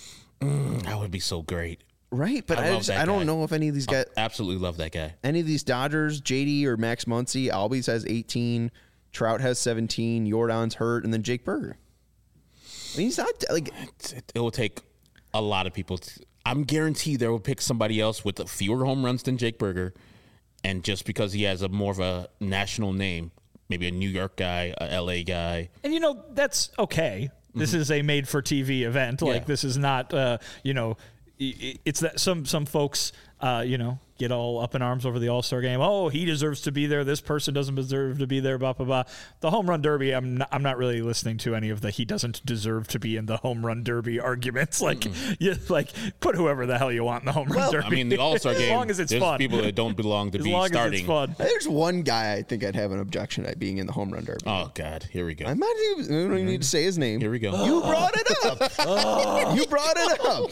That would be so great. right? But I I, love just, that I don't guy. know if any of these guys, Absolutely love that guy. any of these Dodgers, J D or Max Muncy, Albies has eighteen, Trout has seventeen, Jordan's hurt, and then Jake Berger. He's not like it, it will take a lot of people. To, I'm guaranteed they will pick somebody else with fewer home runs than Jake Burger, and just because he has a more of a national name, maybe a New York guy, a L A guy. And you know that's okay. This mm-hmm. is a made-for-T V event. Like yeah. this is not, uh, you know, it's that some some folks, uh, you know, get all up in arms over the All-Star game. Oh, he deserves to be there. This person doesn't deserve to be there. Blah blah blah. The home run derby. I'm not, I'm not really listening to any of the he doesn't deserve to be in the home run derby arguments. Like, mm-hmm. you like put whoever the hell you want in the home run well, derby. I mean, the All-Star game. As long as it's there's fun. People that don't belong to as be long starting. As it's fun. There's one guy I think I'd have an objection at being in the home run derby. Oh God, here we go. I might even, I don't even need to say his name. Here we go. You brought it up. oh. You brought it up.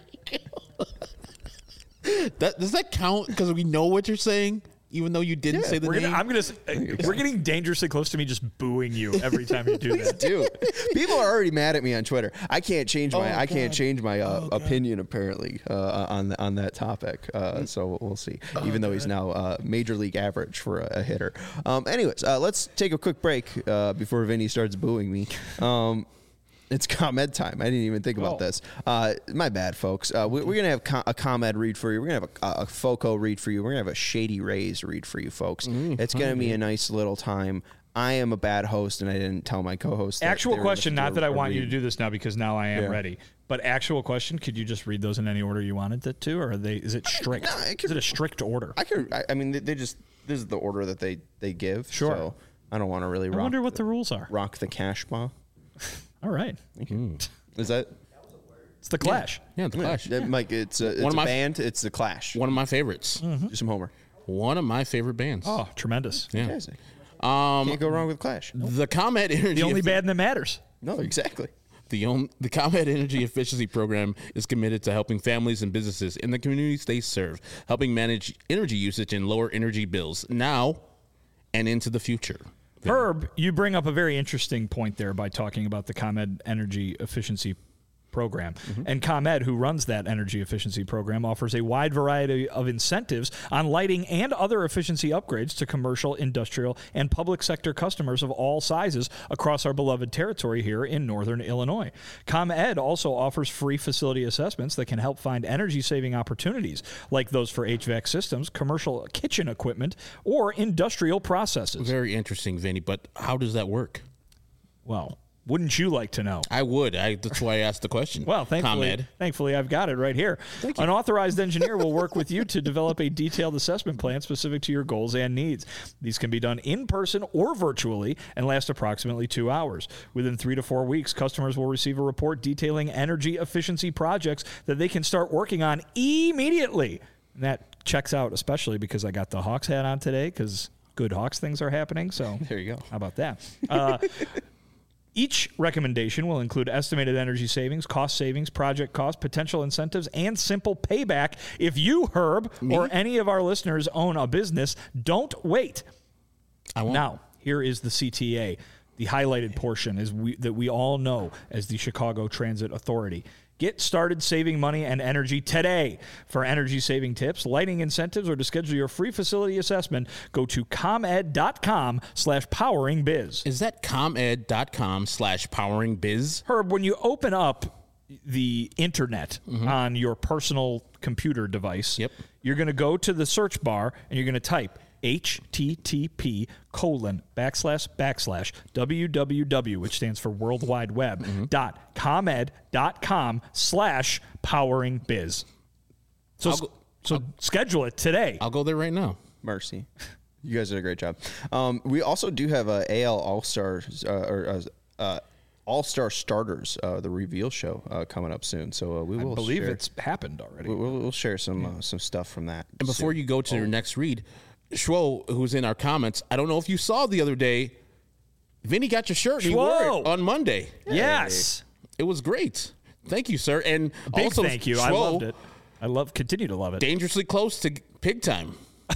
That does that count? Because we know what you're saying, even though you didn't yeah, say the we're name. Gonna, I'm gonna. We're getting dangerously close to me just booing you every time you do that. Dude, people are already mad at me on Twitter. I can't change my. Oh, I can't God. change my uh, oh, opinion apparently uh, on the, on that topic. Uh, so we'll see. Oh, even though God. he's now uh, major league average for a, a hitter. Um, anyways, uh, let's take a quick break uh, before Vinny starts booing me. Um, It's ComEd time. I didn't even think about oh. this. Uh, my bad, folks. Uh, we, we're going to have com- a ComEd read for you. We're going to have a, a FOCO read for you. We're going to have a Shady Rays read for you, folks. Mm, it's going to be a nice little time. I am a bad host, and I didn't tell my co-host. Actual question, not that I want read. you to do this now because now I am yeah. ready. But actual question, could you just read those in any order you wanted it to, or are they? Is it strict? No, I can, is it a strict order? I can. I, I mean, they, they just this is the order that they they give. Sure. So I don't want to really. I rock wonder what the, the rules are. Rock the cash ball. All right. Mm. Is that? It's the Clash. Yeah, yeah the Clash. Yeah. Mike, it's a, it's one of a my, band. It's the Clash. One of my favorites. Mm-hmm. Do some Homer. One of my favorite bands. Oh, tremendous. Yeah. Amazing. Um, Can't go wrong with Clash. The ComEd Energy. The only Effi- band that matters. No, exactly. The, on, the ComEd Energy Efficiency Program is committed to helping families and businesses in the communities they serve, helping manage energy usage and lower energy bills now and into the future. Herb, you bring up a very interesting point there by talking about the ComEd Energy Efficiency Program. Mm-hmm. And ComEd, who runs that energy efficiency program, offers a wide variety of incentives on lighting and other efficiency upgrades to commercial, industrial, and public sector customers of all sizes across our beloved territory here in northern Illinois. ComEd also offers free facility assessments that can help find energy-saving opportunities, like those for H V A C systems, commercial kitchen equipment, or industrial processes. Very interesting, Vinny, but how does that work? Well, wouldn't you like to know? I would. I, that's why I asked the question. Well, thankfully, ComEd. thankfully, I've got it right here. An authorized engineer will work with you to develop a detailed assessment plan specific to your goals and needs. These can be done in person or virtually and last approximately two hours. Within three to four weeks, customers will receive a report detailing energy efficiency projects that they can start working on immediately. And that checks out, especially because I got the Hawks hat on today because good Hawks things are happening. So there you go. How about that? Uh, Each recommendation will include estimated energy savings, cost savings, project cost, potential incentives, and simple payback. If you, Herb, Me? or any of our listeners own a business, don't wait. I won't. Now, here is the C T A. The highlighted portion is we, that we all know as the Chicago Transit Authority. Get started saving money and energy today. For energy-saving tips, lighting incentives, or to schedule your free facility assessment, go to comed.com slash poweringbiz. Is that comed.com slash poweringbiz? Herb, when you open up the internet mm-hmm. on your personal computer device, yep. you're going to go to the search bar and you're going to type http colon backslash backslash www, which stands for World Wide Web, mm-hmm. dot comed.com slash powering biz. So, go, so I'll, schedule it today. I'll go there right now. Mercy. You guys did a great job. Um, we also do have a A L All-Stars uh, or uh, uh, All-Star Starters, uh, the reveal show uh, coming up soon. So uh, we will I believe share, it's happened already. We'll, we'll share some uh, some stuff from that. And before soon. you go to oh. your next read, Schwo, who's in our comments, I don't know if you saw the other day, Vinny got your shirt and he wore it on Monday. Yes. It was great. Thank you, sir. And Big also, thank you. Schwo, I loved it. I love, continue to love it. Dangerously close to pig time.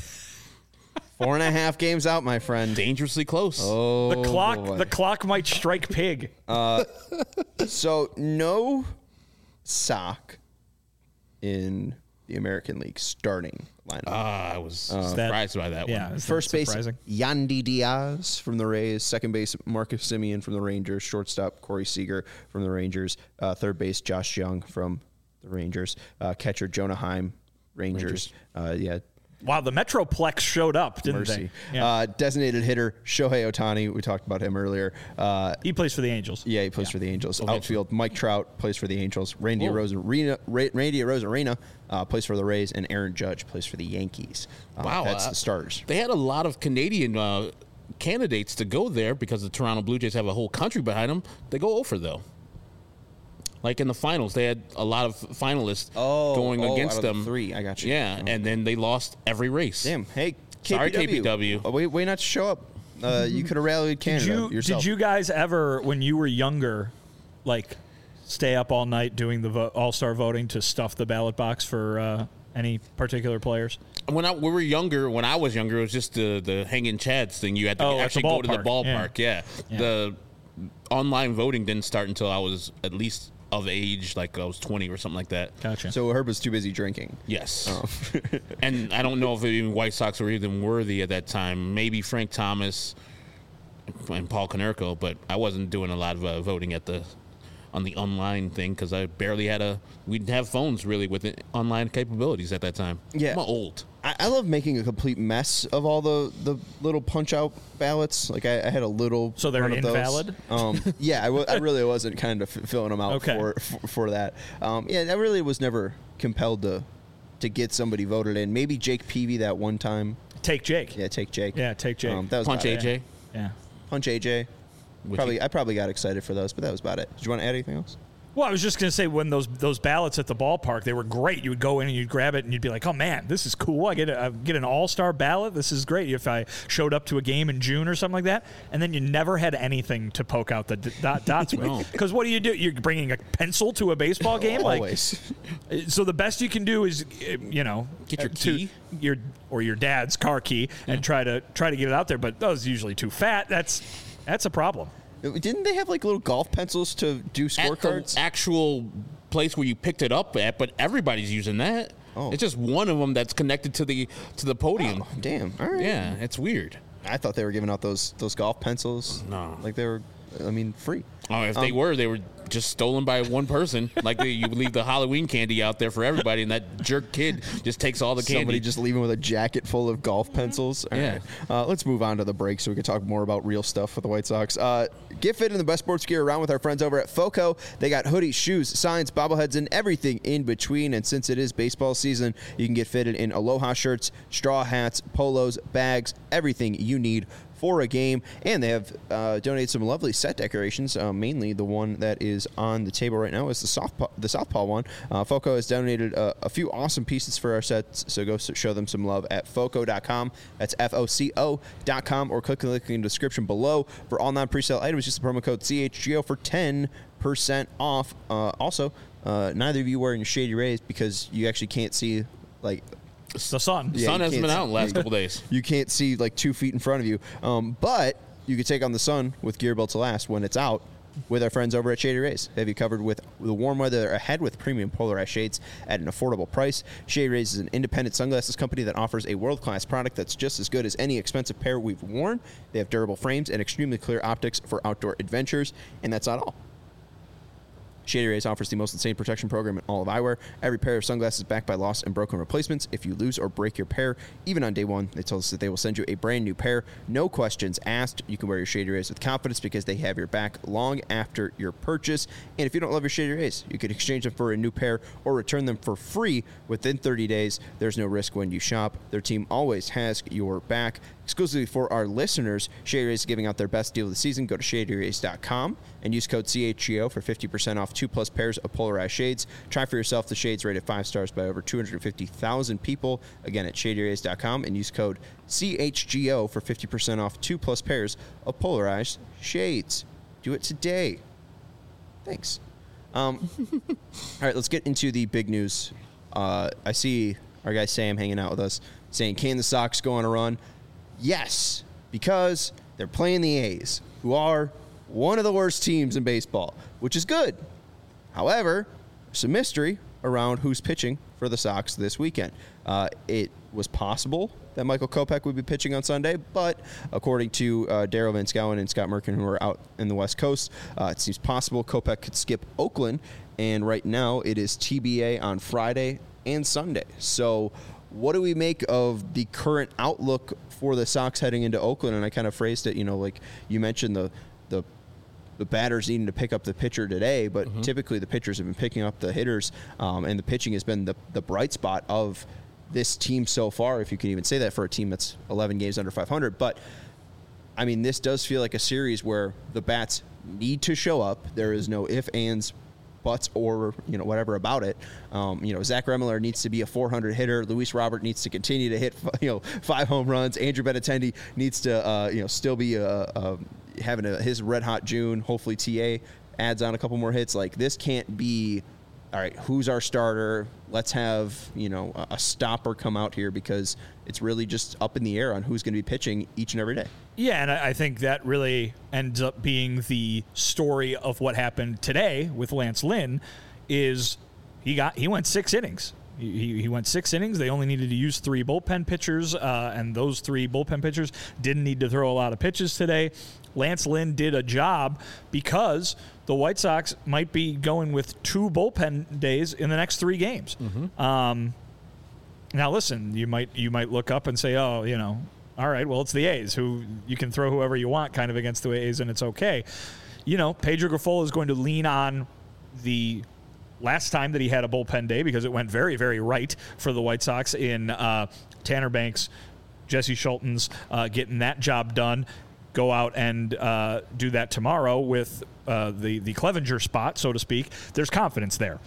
Four and a half games out, my friend. Dangerously close. Oh, the clock, boy. the clock might strike pig. Uh, so no sock in the American League starting lineup. Ah, I was that- surprised by that yeah, one. is that First base, surprising? Yandy Diaz from the Rays. Second base, Marcus Semien from the Rangers. Shortstop, Corey Seager from the Rangers. Uh, third base, Josh Young from the Rangers. Uh, catcher, Jonah Heim, Rangers. Uh, yeah, Wow, the Metroplex showed up, didn't mercy. they? Yeah. Uh, designated hitter, Shohei Ohtani. We talked about him earlier. Uh, he plays for the Angels. yeah, he plays for the Angels. Okay. Outfield, Mike Trout plays for the Angels. Randy Cool. Rosarena, Ra- Randy Rosarena uh, plays for the Rays, and Aaron Judge plays for the Yankees. Uh, Wow, that's uh, the starters. They had a lot of Canadian uh, candidates to go there because the Toronto Blue Jays have a whole country behind them. They go over though. Like in the finals, they had a lot of finalists Oh, going oh, against out of the them. three, I got you. Yeah, and then they lost every race. Damn. Hey, K P W. Sorry, K P W. Oh, wait, wait not to show up. Uh, you could have rallied Did Canada you yourself. did you guys ever, when you were younger, like stay up all night doing the vo- All Star voting to stuff the ballot box for uh, any particular players? When I, we were younger, when I was younger, it was just the the hanging chads thing. You had to Oh, at the actually go to the ballpark. ballpark. Yeah. Yeah. The online voting didn't start until I was at least of age, like I was twenty or something like that. Gotcha. So Herb was too busy drinking. Yes. Oh. And I don't know if even White Sox were even worthy at that time. Maybe Frank Thomas and Paul Konerko, but I wasn't doing a lot of uh, voting at the on the online thing because I barely had a. We didn't have phones really with it, online capabilities at that time. Yeah. I'm old. I, I love making a complete mess of all the, the little punch out ballots. Like I, I had a little. So they're run of those. invalid? Um, yeah, I, w- I really wasn't kind of f- filling them out Okay. for, for for that. Um, yeah, I really was never compelled to to get somebody voted in. Maybe Jake Peavy that one time. Take Jake. Yeah, take Jake. Yeah, take Jake. Um, that was Punch about A J. it. Yeah. Punch A J. Which Probably, he- I probably got excited for those, but that was about it. Did you want to add anything else? Well, I was just going to say when those those ballots at the ballpark, they were great. You would go in and you'd grab it and you'd be like, "Oh man, this is cool! I get a, I get an all-star ballot. This is great." If I showed up to a game in June or something like that, and then you never had anything to poke out the d- dot, dots No. with, because what do you do? You're bringing a pencil to a baseball game, Always. Like, so the best you can do is, uh, you know, Get your uh, to- key. your or your dad's car key, and try to try to get it out there. But those are usually too fat. That's that's a problem. Didn't they have like little golf pencils to do at scorecards? the actual place where you picked it up at, but everybody's using that. Oh. It's just one of them that's connected to the to the podium. Oh, damn. All right. Yeah, it's weird. I thought they were giving out those those golf pencils. No. Like they were, I mean, free. Oh, if they Um, were, they were just stolen by one person. Like they, you leave the Halloween candy out there for everybody, and that jerk kid just takes all the candy. Somebody just leaving with a jacket full of golf pencils. All Yeah. right. Uh, let's move on to the break so we can talk more about real stuff with the White Sox. Uh, get fit in the best sports gear around with our friends over at FOCO. They got hoodies, shoes, signs, bobbleheads, and everything in between. And since it is baseball season, you can get fitted in Aloha shirts, straw hats, polos, bags, everything you need for a game. And they have uh, donated some lovely set decorations. Uh, mainly the one that is on the table right now is the Southpaw, the Southpaw one. Uh, FOCO has donated uh, a few awesome pieces for our sets, so go s- show them some love at foco dot com. That's F O C O dot com, or click the link in the description below. For all non-presale items, use the promo code C H G O for ten percent off. Uh, also, uh, neither of you wearing your Shady Rays because you actually can't see, like, It's the sun. The Yeah, sun you hasn't can't been see- out in the last couple days. you can't see like two feet in front of you. Um, but you can take on the sun with Gear Built to Last when it's out with our friends over at Shady Rays. They have you covered with the warm weather ahead with premium polarized shades at an affordable price. Shady Rays is an independent sunglasses company that offers a world-class product that's just as good as any expensive pair we've worn. They have durable frames and extremely clear optics for outdoor adventures, and that's not all. Shady Rays offers the most insane protection program in all of eyewear. Every pair of sunglasses backed by lost and broken replacements. If you lose or break your pair, even on day one, they told us that they will send you a brand new pair. No questions asked. You can wear your Shady Rays with confidence because they have your back long after your purchase. And if you don't love your Shady Rays, you can exchange them for a new pair or return them for free within thirty days. There's no risk when you shop. Their team always has your back. Exclusively for our listeners, Shady Rays is giving out their best deal of the season. Go to shady rays dot com and use code C H G O for fifty percent off two plus pairs of polarized shades. Try for yourself the shades rated five stars by over two hundred fifty thousand people. Again, at shady rays dot com and use code C H G O for fifty percent off two plus pairs of polarized shades. Do it today. Thanks. Um, all right, let's get into the big news. Uh, I see our guy Sam hanging out with us saying, can the Sox go on a run? Yes, because they're playing the A's, who are one of the worst teams in baseball, which is good. However, there's some mystery around who's pitching for the Sox this weekend. Uh, it was possible that Michael Kopech would be pitching on Sunday, but according to uh, Daryl Van Schouwen and Scott Merkin, who are out in the West Coast, uh, it seems possible Kopech could skip Oakland, and right now it is T B A on Friday and Sunday. So what do we make of the current outlook for the Sox heading into Oakland? And I kind of phrased it, you know, like you mentioned the the the batters needing to pick up the pitcher today, but mm-hmm. typically the pitchers have been picking up the hitters, um, and the pitching has been the, the bright spot of this team so far, if you can even say that for a team that's eleven games under five hundred. But, I mean, this does feel like a series where the bats need to show up. There is no ifs, ands, buts, or, you know, whatever about it. Um, you know, Zach Remillard needs to be a four hundred hitter. Luis Robert needs to continue to hit, you know, five home runs. Andrew Benintendi needs to, uh, you know, still be a, a having a, his red hot June. Hopefully T A adds on a couple more hits. Like, this can't be, all right, who's our starter? Let's have, you know, a, a stopper come out here, because it's really just up in the air on who's going to be pitching each and every day. Yeah, and I think that really ends up being the story of what happened today with Lance Lynn. Is he got he went six innings. He, he went six innings. They only needed to use three bullpen pitchers, uh, and those three bullpen pitchers didn't need to throw a lot of pitches today. Lance Lynn did a job because the White Sox might be going with two bullpen days in the next three games. Mm-hmm. Um, now, listen, you might you might look up and say, oh, you know, all right, well, it's the A's, who you can throw whoever you want kind of against the A's, and it's okay. You know, Pedro Grifol is going to lean on the last time that he had a bullpen day, because it went very, very right for the White Sox in uh, Tanner Banks, Jesse Schultens uh, getting that job done. Go out and uh, do that tomorrow with uh, the, the Clevenger spot, so to speak. There's confidence there.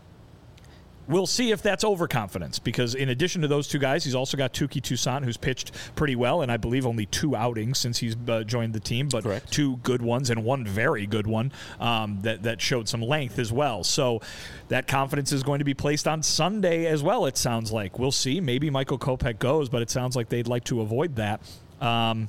We'll see if that's overconfidence, because in addition to those two guys, he's also got Touki Toussaint, who's pitched pretty well, and I believe only two outings since he's uh, joined the team, but Correct. two good ones and one very good one um, that, that showed some length as well. So that confidence is going to be placed on Sunday as well, it sounds like. We'll see. Maybe Michael Kopech goes, but it sounds like they'd like to avoid that. Um,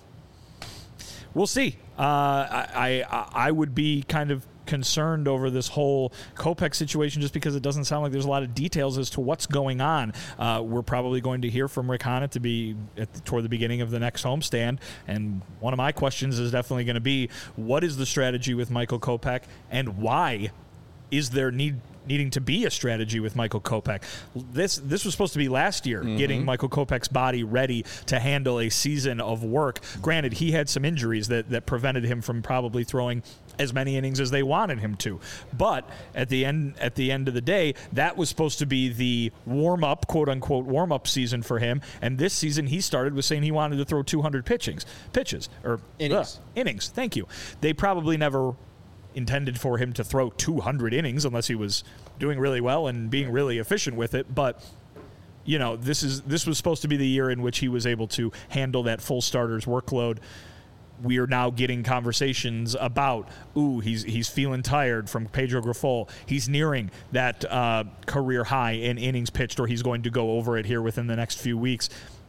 we'll see. Uh, I, I I would be kind of concerned over this whole Kopech situation, just because it doesn't sound like there's a lot of details as to what's going on. Uh, we're probably going to hear from Rick Hannett to be at the, toward the beginning of the next homestand, and one of my questions is definitely going to be, what is the strategy with Michael Kopech, and why is there need needing to be a strategy with Michael Kopech? This this was supposed to be last year, mm-hmm. getting Michael Kopech's body ready to handle a season of work. Granted, he had some injuries that, that prevented him from probably throwing as many innings as they wanted him to. But at the end at the end of the day, that was supposed to be the warm-up, quote-unquote, warm-up season for him. And this season he started with saying he wanted to throw two hundred pitchings, pitches. Or innings. Uh, innings, thank you. They probably never intended for him to throw two hundred innings unless he was doing really well and being really efficient with it. But, you know, this is this was supposed to be the year in which he was able to handle that full starter's workload. We are now getting conversations about, ooh, he's he's feeling tired from Pedro Grifol. He's nearing that uh, career high in innings pitched, or he's going to go over it here within the next few weeks.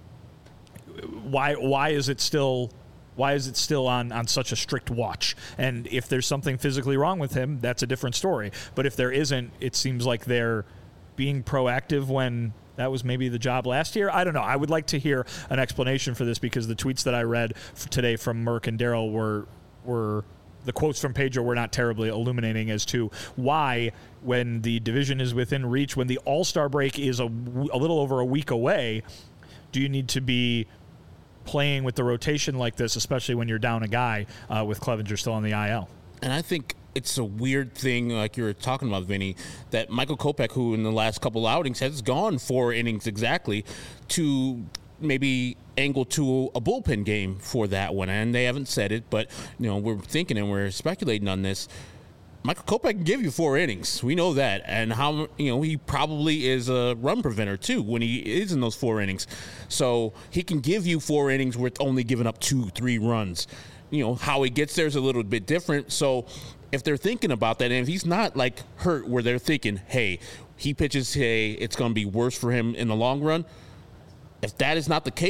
Why why is it still why is it still on, on such a strict watch? And if there's something physically wrong with him, that's a different story. But if there isn't, it seems like they're being proactive when that was maybe the job last year. I don't know. I would like to hear an explanation for this, because the tweets that I read today from Merck and Daryl were were the quotes from Pedro were not terribly illuminating as to why, when the division is within reach, when the All-Star break is a, a little over a week away, do you need to be playing with the rotation like this, especially when you're down a guy uh, with Clevenger still on the I L? And I think it's a weird thing, like you were talking about, Vinny, that Michael Kopech, who in the last couple outings has gone four innings exactly, to maybe angle to a bullpen game for that one. And they haven't said it, but, you know, we're thinking and we're speculating on this. Michael Kopech can give you four innings. We know that. And how, you know, he probably is a run preventer too when he is in those four innings. So he can give you four innings with only giving up two, three runs. You know, how he gets there is a little bit different. So if they're thinking about that, and if he's not like hurt where they're thinking, hey, he pitches today, it's going to be worse for him in the long run. If that is not the case,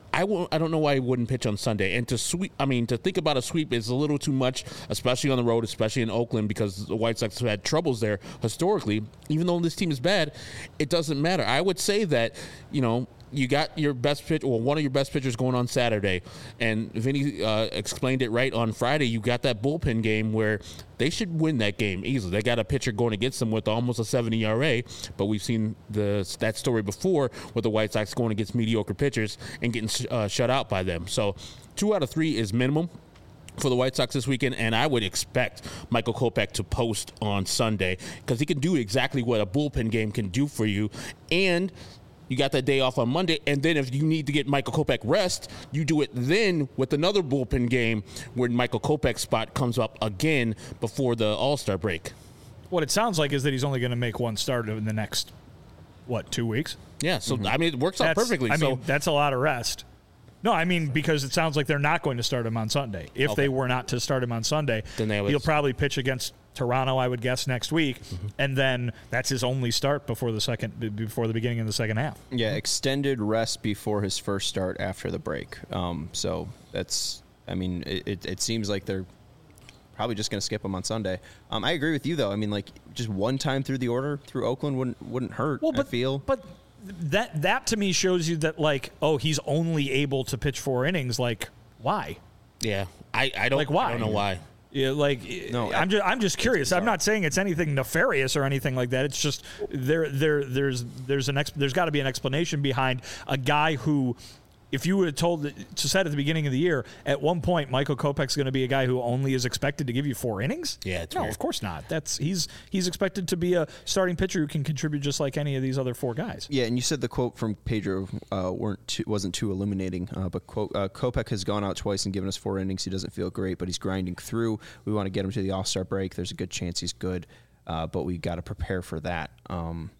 I won't, I don't know why he wouldn't pitch on Sunday. And to sweep, I mean, to think about a sweep is a little too much, especially on the road, especially in Oakland, because the White Sox have had troubles there historically. Even though this team is bad, it doesn't matter. I would say that, you know, you got your best pitch, or one of your best pitchers going on Saturday, and Vinny uh, explained it right on Friday. You got that bullpen game where they should win that game easily. They got a pitcher going against them with almost a seven E R A, but we've seen the that story before with the White Sox going against mediocre pitchers and getting uh, shut out by them. So two out of three is minimum for the White Sox this weekend, and I would expect Michael Kopech to post on Sunday because he can do exactly what a bullpen game can do for you, and you got that day off on Monday, and then if you need to get Michael Kopech rest, you do it then with another bullpen game where Michael Kopech's spot comes up again before the All-Star break. What it sounds like is that he's only going to make one start in the next, what, two weeks? Yeah, so, mm-hmm. I mean, it works out that's, perfectly. I so. mean, that's a lot of rest. No, I mean, because it sounds like they're not going to start him on Sunday. If okay. they were not to start him on Sunday, then they would... he'll probably pitch against Toronto, I would guess, next week, mm-hmm. and then that's his only start before the second, before the beginning of the second half. Yeah, extended rest before his first start after the break. Um, so that's, I mean, it, it, it seems like they're probably just going to skip him on Sunday. Um, I agree with you, though. I mean, like, just one time through the order through Oakland wouldn't wouldn't hurt. Well, but, I feel, but that that to me shows you that, like, oh, he's only able to pitch four innings. Like, why? Yeah, I, I don't like why. I don't know why. Yeah, like no, I'm just I'm just curious. I'm not saying it's anything nefarious or anything like that. It's just there there there's there's an ex, there's got to be an explanation behind a guy who, if you were told to said at the beginning of the year, at one point Michael Kopech's going to be a guy who only is expected to give you four innings. Yeah, it's no, weird. Of course not. That's he's he's expected to be a starting pitcher who can contribute just like any of these other four guys. Yeah, and you said the quote from Pedro uh, weren't too, wasn't too illuminating, uh, but quote, uh, Kopech has gone out twice and given us four innings. He doesn't feel great, but he's grinding through. We want to get him to the All-Star break. There's a good chance he's good, uh, but we got to prepare for that. Um,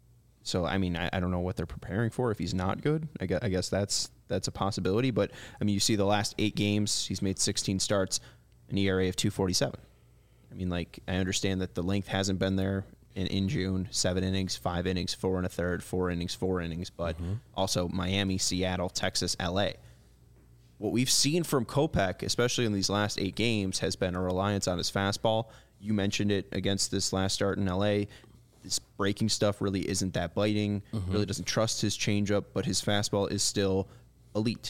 so, I mean, I, I don't know what they're preparing for if he's not good. I guess, I guess that's that's a possibility. But, I mean, you see the last eight games, he's made sixteen starts, an E R A of two forty-seven. I mean, like, I understand that the length hasn't been there in, in June. Seven innings, five innings, four and a third, four innings, four innings. But mm-hmm. also Miami, Seattle, Texas, L A. What we've seen from Kopech, especially in these last eight games, has been a reliance on his fastball. You mentioned it against this last start in L A. This breaking stuff really isn't that biting, mm-hmm. really doesn't trust his changeup, but his fastball is still elite.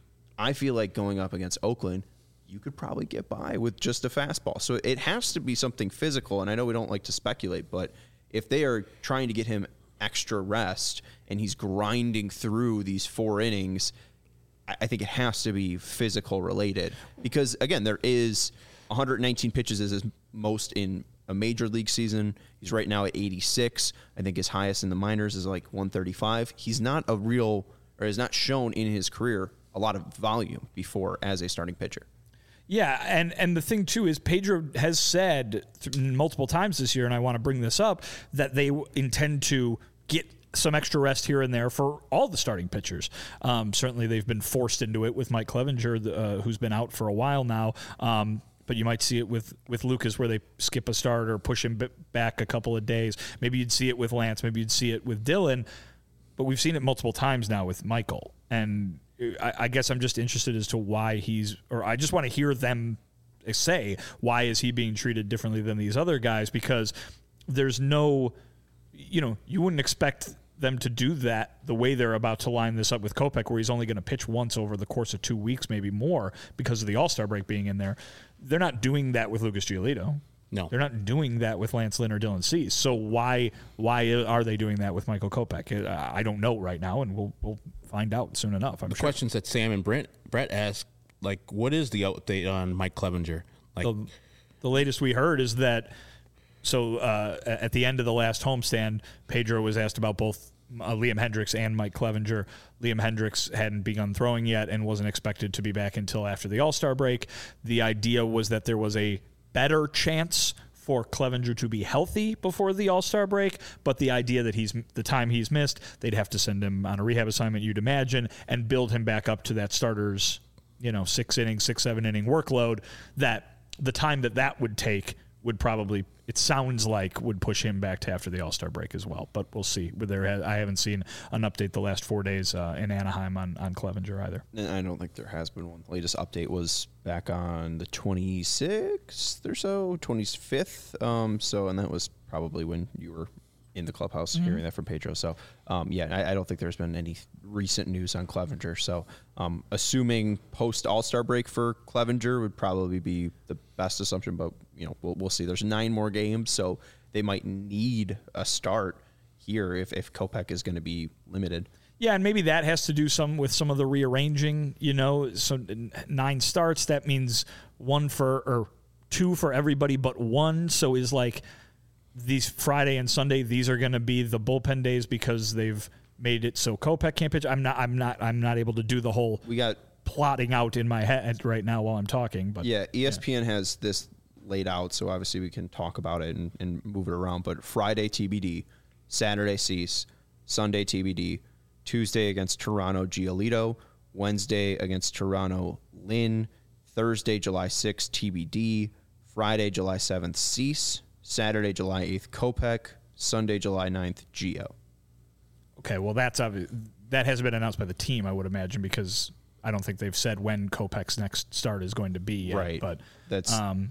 I feel like going up against Oakland, you could probably get by with just a fastball. So it has to be something physical, and I know we don't like to speculate, but if they are trying to get him extra rest and he's grinding through these four innings, I think it has to be physical related. Because, again, there is one hundred nineteen pitches is his most in a major league season. He's right now at eighty-six. I think his highest in the minors is like one thirty-five. He's not a real, or has not shown in his career a lot of volume before as a starting pitcher. Yeah, and, and the thing, too, is Pedro has said th- multiple times this year, and I want to bring this up, that they w- intend to get some extra rest here and there for all the starting pitchers. Um, certainly they've been forced into it with Mike Clevenger, uh, who's been out for a while now. Um, but you might see it with, with Lucas where they skip a start or push him back a couple of days. Maybe you'd see it with Lance. Maybe you'd see it with Dylan. But we've seen it multiple times now with Michael. And I, I guess I'm just interested as to why he's – or I just want to hear them say, why is he being treated differently than these other guys? Because there's no – you know, you wouldn't expect them to do that the way they're about to line this up with Kopech, where he's only going to pitch once over the course of two weeks, maybe more, because of the All-Star break being in there. They're not doing that with Lucas Giolito. No. They're not doing that with Lance Lynn or Dylan Cease. So why why are they doing that with Michael Kopech? I don't know right now, and we'll we'll find out soon enough, I'm the sure. Questions that Sam and Brent Brett asked, like, what is the update on Mike Clevenger? Like, the, the latest we heard is that, so uh, at the end of the last homestand, Pedro was asked about both uh, Liam Hendricks and Mike Clevenger. Liam Hendricks hadn't begun throwing yet and wasn't expected to be back until after the All-Star break. The idea was that there was a better chance for Clevenger to be healthy before the All-Star break, but the idea that he's the time he's missed, they'd have to send him on a rehab assignment, you'd imagine, and build him back up to that starter's, you know, six inning, six, seven inning workload, that the time that that would take would probably, it sounds like, would push him back to after the All-Star break as well. But we'll see. There, I haven't seen an update the last four days uh, in Anaheim on, on Clevenger either. I don't think there has been one. The latest update was back on the twenty-sixth or so, twenty-fifth. Um, so, and that was probably when you were in the clubhouse mm-hmm. hearing that from Pedro. So, um, yeah, I, I don't think there's been any recent news on Clevenger. So, um, assuming post All-Star break for Clevenger would probably be the best assumption, but, you know, we'll, we'll see. There's nine more games, so they might need a start here if, if Kopech is going to be limited. Yeah, and maybe that has to do some with some of the rearranging, you know, so nine starts, that means one for, or two for everybody but one. So is like, these Friday and Sunday, these are going to be the bullpen days because they've made it so Kopech can't pitch. I'm not. I'm not. I'm not able to do the whole. We got plotting out in my head right now while I'm talking. But yeah, E S P N yeah. has this laid out, so obviously we can talk about it and, and move it around. But Friday T B D, Saturday Cease, Sunday T B D, Tuesday against Toronto Giolito, Wednesday against Toronto Lynn, Thursday July sixth T B D, Friday July seventh Cease. Saturday, July eighth, Kopech. Sunday, July ninth, Gio. Okay, well, that's obvious. That hasn't been announced by the team, I would imagine, because I don't think they've said when Kopech's next start is going to be yet. Right. But that's um,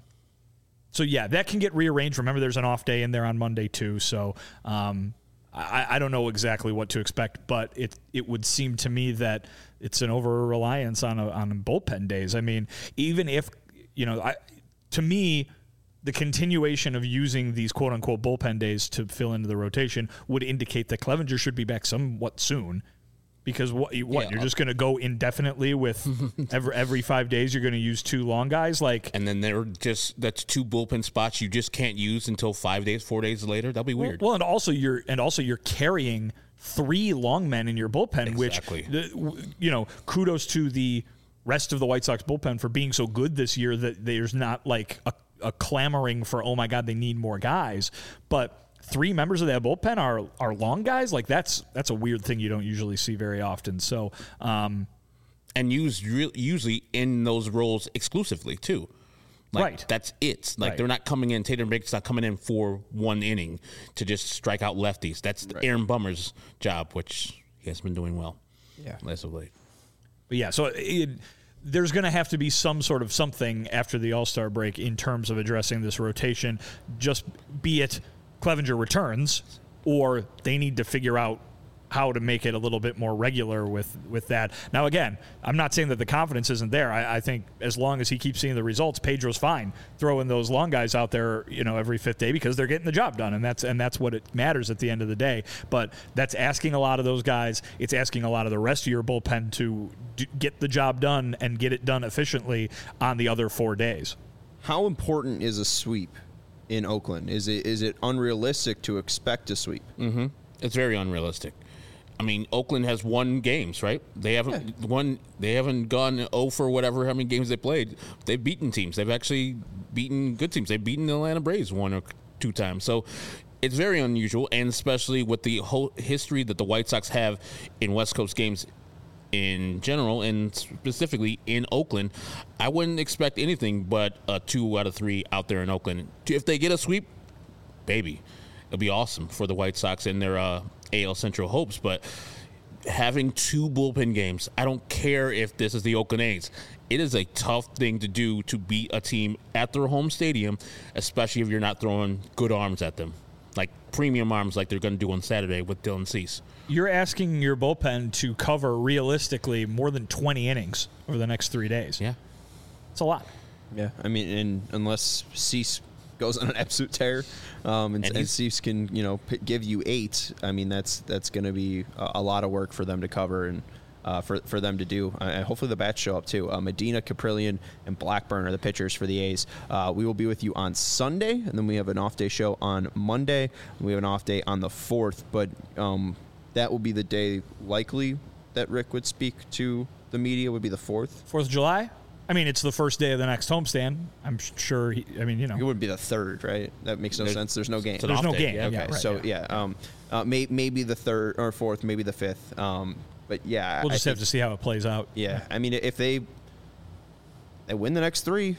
so yeah, that can get rearranged. Remember, there's an off day in there on Monday too. So um, I, I don't know exactly what to expect, but it it would seem to me that it's an over reliance on a, on bullpen days. I mean, even if you know, I to me. The continuation of using these quote-unquote bullpen days to fill into the rotation would indicate that Clevenger should be back somewhat soon. Because what, what yeah. you're just going to go indefinitely with every every five days you're going to use two long guys, like, and then they're just that's two bullpen spots you just can't use until five days, four days later. That'll be weird. Well, well and also you're and also you're carrying three long men in your bullpen, exactly. which you know kudos to the rest of the White Sox bullpen for being so good this year that there's not like a a clamoring for, oh my God, they need more guys. But three members of that bullpen are are long guys. Like that's that's a weird thing you don't usually see very often. So, um, and used re- usually in those roles exclusively too. Like, right. That's it. Like right. they're not coming in. Tatum Baker's not coming in for one inning to just strike out lefties. That's right. Aaron Bummer's job, which he has been doing well. Yeah, less of late. But yeah, so it. There's going to have to be some sort of something after the All-Star break in terms of addressing this rotation, just be it Clevenger returns or they need to figure out how to make it a little bit more regular with, with that. Now, again, I'm not saying that the confidence isn't there. I, I think as long as he keeps seeing the results, Pedro's fine throwing those long guys out there, you know, every fifth day because they're getting the job done, and that's and that's what it matters at the end of the day. But that's asking a lot of those guys. It's asking a lot of the rest of your bullpen to do, get the job done and get it done efficiently on the other four days. How important is a sweep in Oakland? Is it is it unrealistic to expect a sweep? Mm-hmm. It's very unrealistic. I mean, Oakland has won games, right? They haven't yeah. won. They haven't gone oh for whatever how many games they played. They've beaten teams. They've actually beaten good teams. They've beaten the Atlanta Braves one or two times. So it's very unusual, and especially with the whole history that the White Sox have in West Coast games in general, and specifically in Oakland, I wouldn't expect anything but a two out of three out there in Oakland. If they get a sweep, baby, it'll be awesome for the White Sox and their uh, A L Central hopes. But having two bullpen games, I don't care if this is the Oakland A's. It is a tough thing to do to beat a team at their home stadium, especially if you're not throwing good arms at them, like premium arms like they're going to do on Saturday with Dylan Cease. You're asking your bullpen to cover realistically more than twenty innings over the next three days. Yeah. It's a lot. Yeah. I mean, and unless Cease goes on an absolute tear, um, and, and, and Cease can, you know, p- give you eight, I mean, that's that's going to be a, a lot of work for them to cover and uh, for, for them to do. Uh, and hopefully the bats show up, too. Uh, Medina, Caprillion, and Blackburn are the pitchers for the A's. Uh, we will be with you on Sunday, and then we have an off-day show on Monday. We have an off day on the fourth, but um, that will be the day likely that Rick would speak to the media, would be the fourth. fourth of July? I mean, it's the first day of the next homestand. I'm sure. He, I mean, you know, it would be the third, right? That makes no There's, sense. There's no game. There's no day. game. Yeah, okay, yeah, right, so yeah, yeah, um, uh, may, maybe the third or fourth, maybe the fifth. Um, but yeah, we'll just I have think, to see how it plays out. Yeah, I mean, if they they win the next three,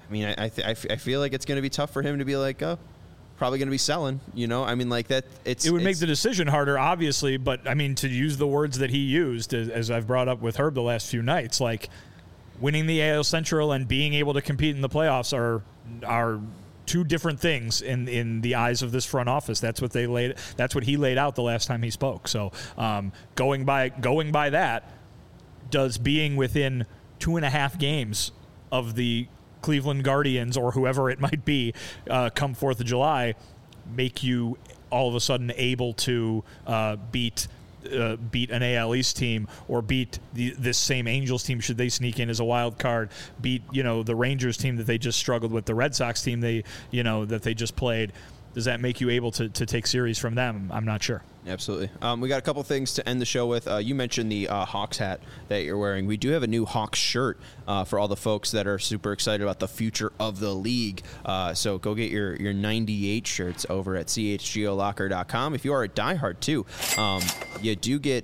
I mean, I I, th- I, f- I feel like it's going to be tough for him to be like, oh, probably going to be selling. You know, I mean, like that. It's it would make it's, the decision harder, obviously. But I mean, to use the words that he used, as, as I've brought up with Herb the last few nights, like winning the A L Central and being able to compete in the playoffs are are. two different things in, in the eyes of this front office. That's what they laid. That's what he laid out the last time he spoke. So um, going by going by that, does being within two and a half games of the Cleveland Guardians or whoever it might be uh, come fourth of July make you all of a sudden able to uh, beat Uh, beat an A L East team or beat the, this same Angels team should they sneak in as a wild card, beat, you know, the Rangers team that they just struggled with, the Red Sox team they, you know, that they just played. Does that make you able to, to take series from them? I'm not sure. Absolutely. Um, we got a couple things to end the show with. Uh, you mentioned the uh, Hawks hat that you're wearing. We do have a new Hawks shirt uh, for all the folks that are super excited about the future of the league. Uh, so go get your, your ninety-eight shirts over at c h g o locker dot com. If you are a diehard, too, um, you do get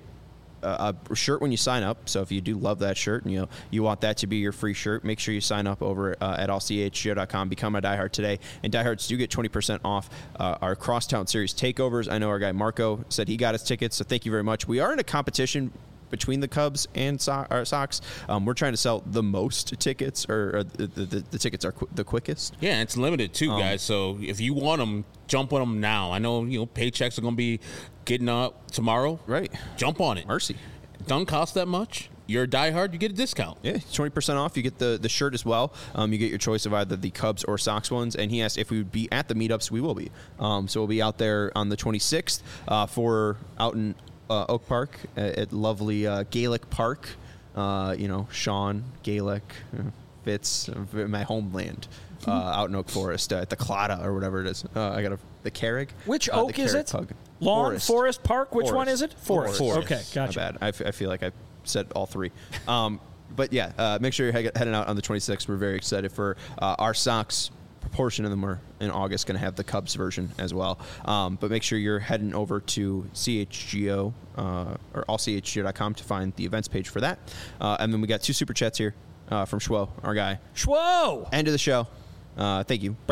a, a shirt when you sign up. So if you do love that shirt and you know, you want that to be your free shirt, make sure you sign up over uh, at all c h g o dot com. Become a diehard today. And diehards do get twenty percent off uh, our Crosstown Series takeovers. I know our guy Marco said he got his tickets, so thank you very much. We are in a competition between the Cubs and so- our Sox. Um, we're trying to sell the most tickets, or, or the, the, the tickets are qu- the quickest. Yeah, it's limited too, um, guys. So if you want them, jump on them now. I know you know paychecks are going to be getting up tomorrow. Right. Jump on it. Mercy. Don't cost that much. You're a diehard, you get a discount. Yeah, twenty percent off. You get the, the shirt as well. Um, you get your choice of either the Cubs or Sox ones. And he asked if we would be at the meetups. We will be. Um, so we'll be out there on the twenty-sixth uh, for out in uh, Oak Park at, at lovely uh, Gaelic Park. Uh, you know, Sean, Gaelic, uh, Fitz, uh, my homeland. Uh, out in Oak Forest uh, at the Claddagh or whatever it is. Uh, I got a, the Carrick. Which uh, oak is it? Pug. Lawn, Forest. Forest Park. Which Forest. one is it? Forest. Forest. Okay, gotcha. My bad. I, f- I feel like I said all three. Um, but yeah, uh, make sure you're he- heading out on the twenty-sixth. We're very excited for uh, our Sox. Proportion of them are in August going to have the Cubs version as well. Um, but make sure you're heading over to C H G O uh, or all c h g o dot com to find the events page for that. Uh, and then we got two super chats here uh, from Schwo, our guy. Schwo! End of the show. Uh, thank you.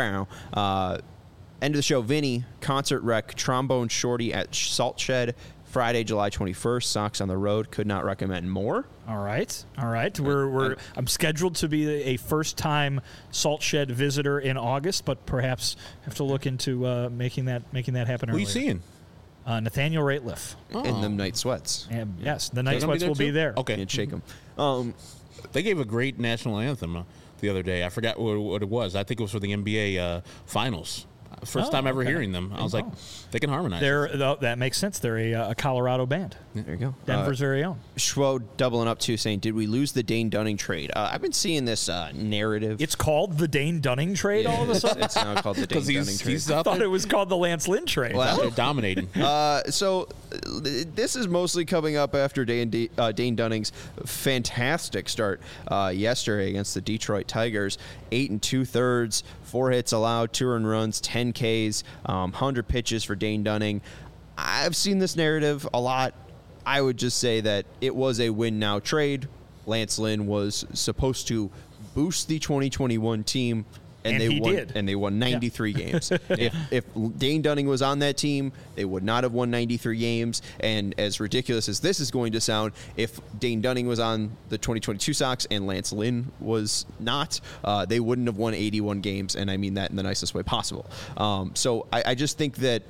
Uh, end of the show. Vinny, concert wreck, trombone shorty at Salt Shed, Friday, July twenty-first. Sox on the road. Could not recommend more. All right, all right. We're we're. I'm scheduled to be a first-time Salt Shed visitor in August, but perhaps have to look into uh, making that making that happen. Who are earlier. you seeing? Uh, Nathaniel Rateliff. Oh. In them night sweats. And yes, the Night They're gonna be Sweats there will be too? there. Okay. Can't shake them. Um, They gave a great national anthem uh, the other day. I forgot what, what it was. I think it was for the N B A uh, Finals. First Oh, time ever okay. hearing them. I was like, they can harmonize. They're th- that makes sense. They're a, uh, a Colorado band. there you go. Denver's Uh, very own. Schwo doubling up too, saying, "Did we lose the Dane Dunning trade?" Uh, I've been seeing this uh, narrative. It's called the Dane Dunning trade. All of a sudden, It's now called the Dane because Dunning he's, trade. he's I out thought there, it was called the Lance Lynn trade. Well, out there dominating. Uh, so uh, this is mostly coming up after Dane, D- uh, Dane Dunning's fantastic start uh, yesterday against the Detroit Tigers. Eight and two thirds, four hits allowed, two earned runs, ten Ks, um, one hundred pitches for Dane Dunning. I've seen this narrative a lot. I would just say that it was a win now trade. Lance Lynn was supposed to boost the twenty twenty-one team. And, And they he won. did. And they won ninety-three games. If if Dane Dunning was on that team, they would not have won ninety-three games. And as ridiculous as this is going to sound, if Dane Dunning was on the twenty twenty-two Sox and Lance Lynn was not, uh, they wouldn't have won eighty-one games. And I mean that in the nicest way possible. Um, so I, I just think that.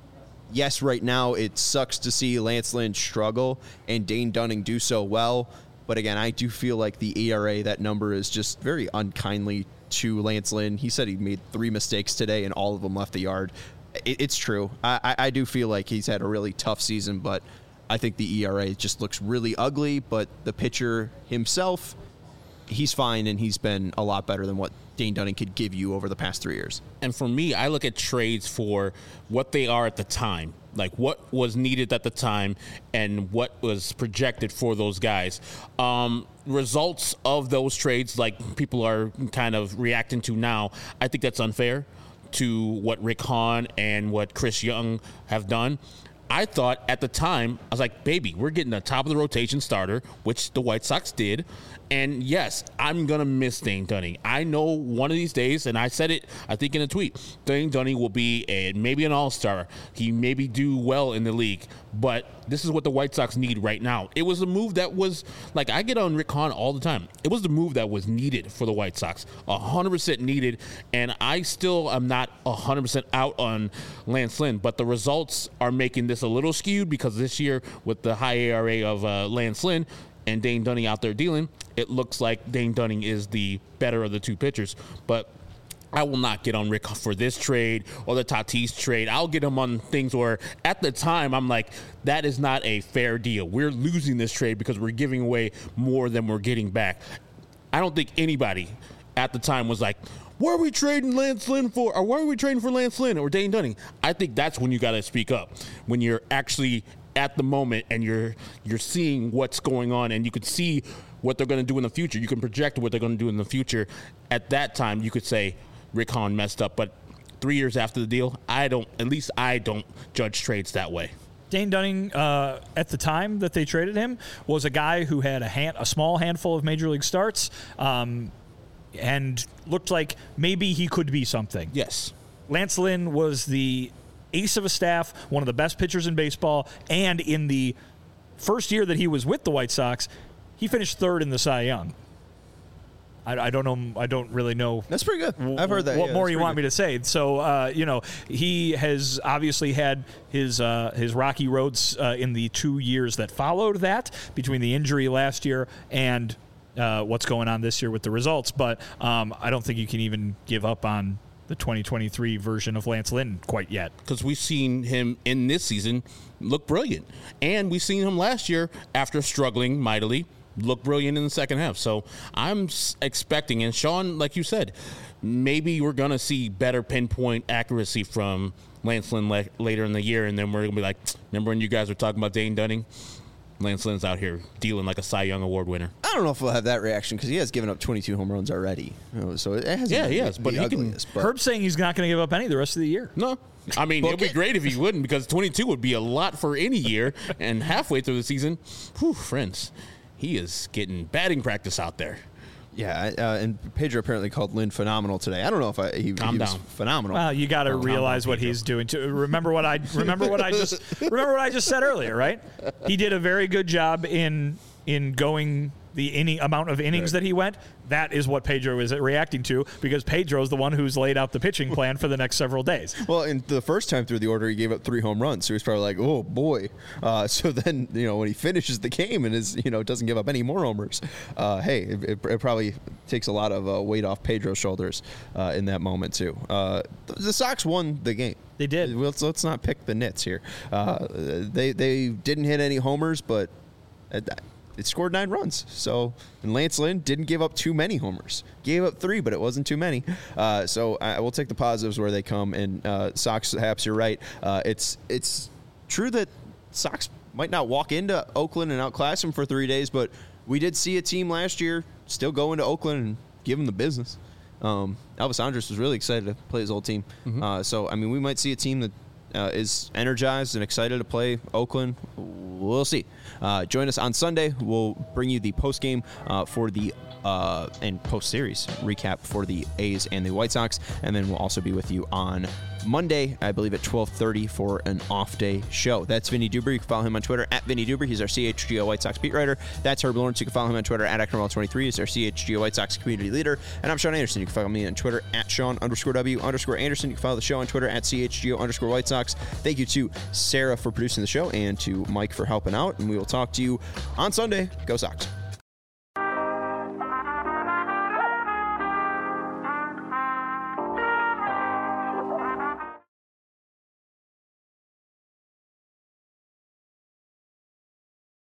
Yes, right now it sucks to see Lance Lynn struggle and Dane Dunning do so well. But again, I do feel like the E R A, that number is just very unkindly to Lance Lynn. He said he made three mistakes today and all of them left the yard. It, it's true. I, I, I do feel like he's had a really tough season, but I think the E R A just looks really ugly. But the pitcher himself, he's fine, and he's been a lot better than what Dane Dunning could give you over the past three years. And for me, I look at trades for what they are at the time, like what was needed at the time and what was projected for those guys. Um, results of those trades, like people are kind of reacting to now, I think that's unfair to what Rick Hahn and what Chris Young have done. I thought at the time, I was like, baby, we're getting the top of the rotation starter, which the White Sox did. And yes, I'm going to miss Dane Dunning. I know one of these days, and I said it, I think in a tweet, Dane Dunning will be a, maybe an all-star. He maybe do well in the league, but this is what the White Sox need right now. It was a move that was, like, I get on Rick Hahn all the time. It was the move that was needed for the White Sox, one hundred percent needed, and I still am not one hundred percent out on Lance Lynn, but the results are making this a little skewed because this year with the high A R A of uh, Lance Lynn, and Dane Dunning out there dealing, it looks like Dane Dunning is the better of the two pitchers. But I will not get on Rick for this trade or the Tatis trade. I'll get him on things where at the time I'm like, that is not a fair deal. We're losing this trade because we're giving away more than we're getting back. I don't think anybody at the time was like, what are we trading Lance Lynn for? Or why are we trading for Lance Lynn or Dane Dunning? I think that's when you got to speak up, when you're actually at the moment and you're you're seeing what's going on and you could see what they're going to do in the future. You can project what they're going to do in the future. At that time, you could say Rick Hahn messed up. But three years after the deal, I don't, at least I don't judge trades that way. Dane Dunning, uh, at the time that they traded him, was a guy who had a hand, a small handful of major league starts, um, and looked like maybe he could be something. Yes. Lance Lynn was the ace of a staff, one of the best pitchers in baseball, and in the first year that he was with the White Sox, he finished third in the Cy Young. I, I don't know. I don't really know. That's pretty good. I've heard that. What yeah, more you want good. me to say? So, uh, you know, he has obviously had his uh, his rocky roads uh, in the two years that followed that, between the injury last year and uh, what's going on this year with the results. But um, I don't think you can even give up on the twenty twenty-three version of Lance Lynn quite yet. Because we've seen him in this season look brilliant. And we've seen him last year, after struggling mightily, look brilliant in the second half. So I'm expecting, and Sean, like you said, maybe we're going to see better pinpoint accuracy from Lance Lynn le- later in the year, and then we're going to be like, remember when you guys were talking about Dane Dunning? Lance Lynn's out here dealing like a Cy Young Award winner. I don't know if we'll have that reaction because he has given up twenty-two home runs already. You know, so it hasn't Yeah, been he the, has, but the he can- ugliest, but Herb's saying he's not going to give up any the rest of the year. No. I mean, Book it would be it. great if he wouldn't, because twenty-two would be a lot for any year. And halfway through the season, whew, friends, he is getting batting practice out there. Yeah, uh, and Pedro apparently called Lynn phenomenal today. I don't know if I, he, Calm he was down. phenomenal. Well, you got to Oh, realize down, what Pedro. he's doing. To remember what I remember what I just remember what I just said earlier, right? He did a very good job in in going the inning amount of innings Right. that he went. That is what Pedro is reacting to, because Pedro's the one who's laid out the pitching plan for the next several days. Well, and the first time through the order, he gave up three home runs, so he's probably like, "Oh boy!" Uh, so then, you know, when he finishes the game and is, you know, doesn't give up any more homers, uh, hey, it, it, it probably takes a lot of uh, weight off Pedro's shoulders uh, in that moment too. Uh, the Sox won the game. They did. Let's, let's not pick the nits here. Uh, they they didn't hit any homers, but it, it scored nine runs. So, and Lance Lynn didn't give up too many homers. Gave up three, but it wasn't too many. Uh, so I will take the positives where they come. And uh, Sox, Haps, you're right. Uh, it's it's true that Sox might not walk into Oakland and outclass them for three days, but we did see a team last year still go into Oakland and give them the business. Um, Elvis Andrus was really excited to play his old team. Mm-hmm. Uh, so, I mean, we might see a team that uh, is energized and excited to play Oakland. We'll see. Uh, join us on Sunday. We'll bring you the post-game uh, for the uh, and post-series recap for the A's and the White Sox. And then we'll also be with you on Monday, I believe, at twelve thirty for an off-day show. That's Vinny Duber. You can follow him on Twitter at Vinny Duber. He's our C H G O White Sox beat writer. That's Herb Lawrence. You can follow him on Twitter at Acton twenty-three. He's our C H G O White Sox community leader. And I'm Sean Anderson. You can follow me on Twitter at Sean underscore W underscore Anderson. You can follow the show on Twitter at C H G O underscore White Sox. Thank you to Sarah for producing the show and to Mike for helping out. And we will talk to you on Sunday. Go Sox.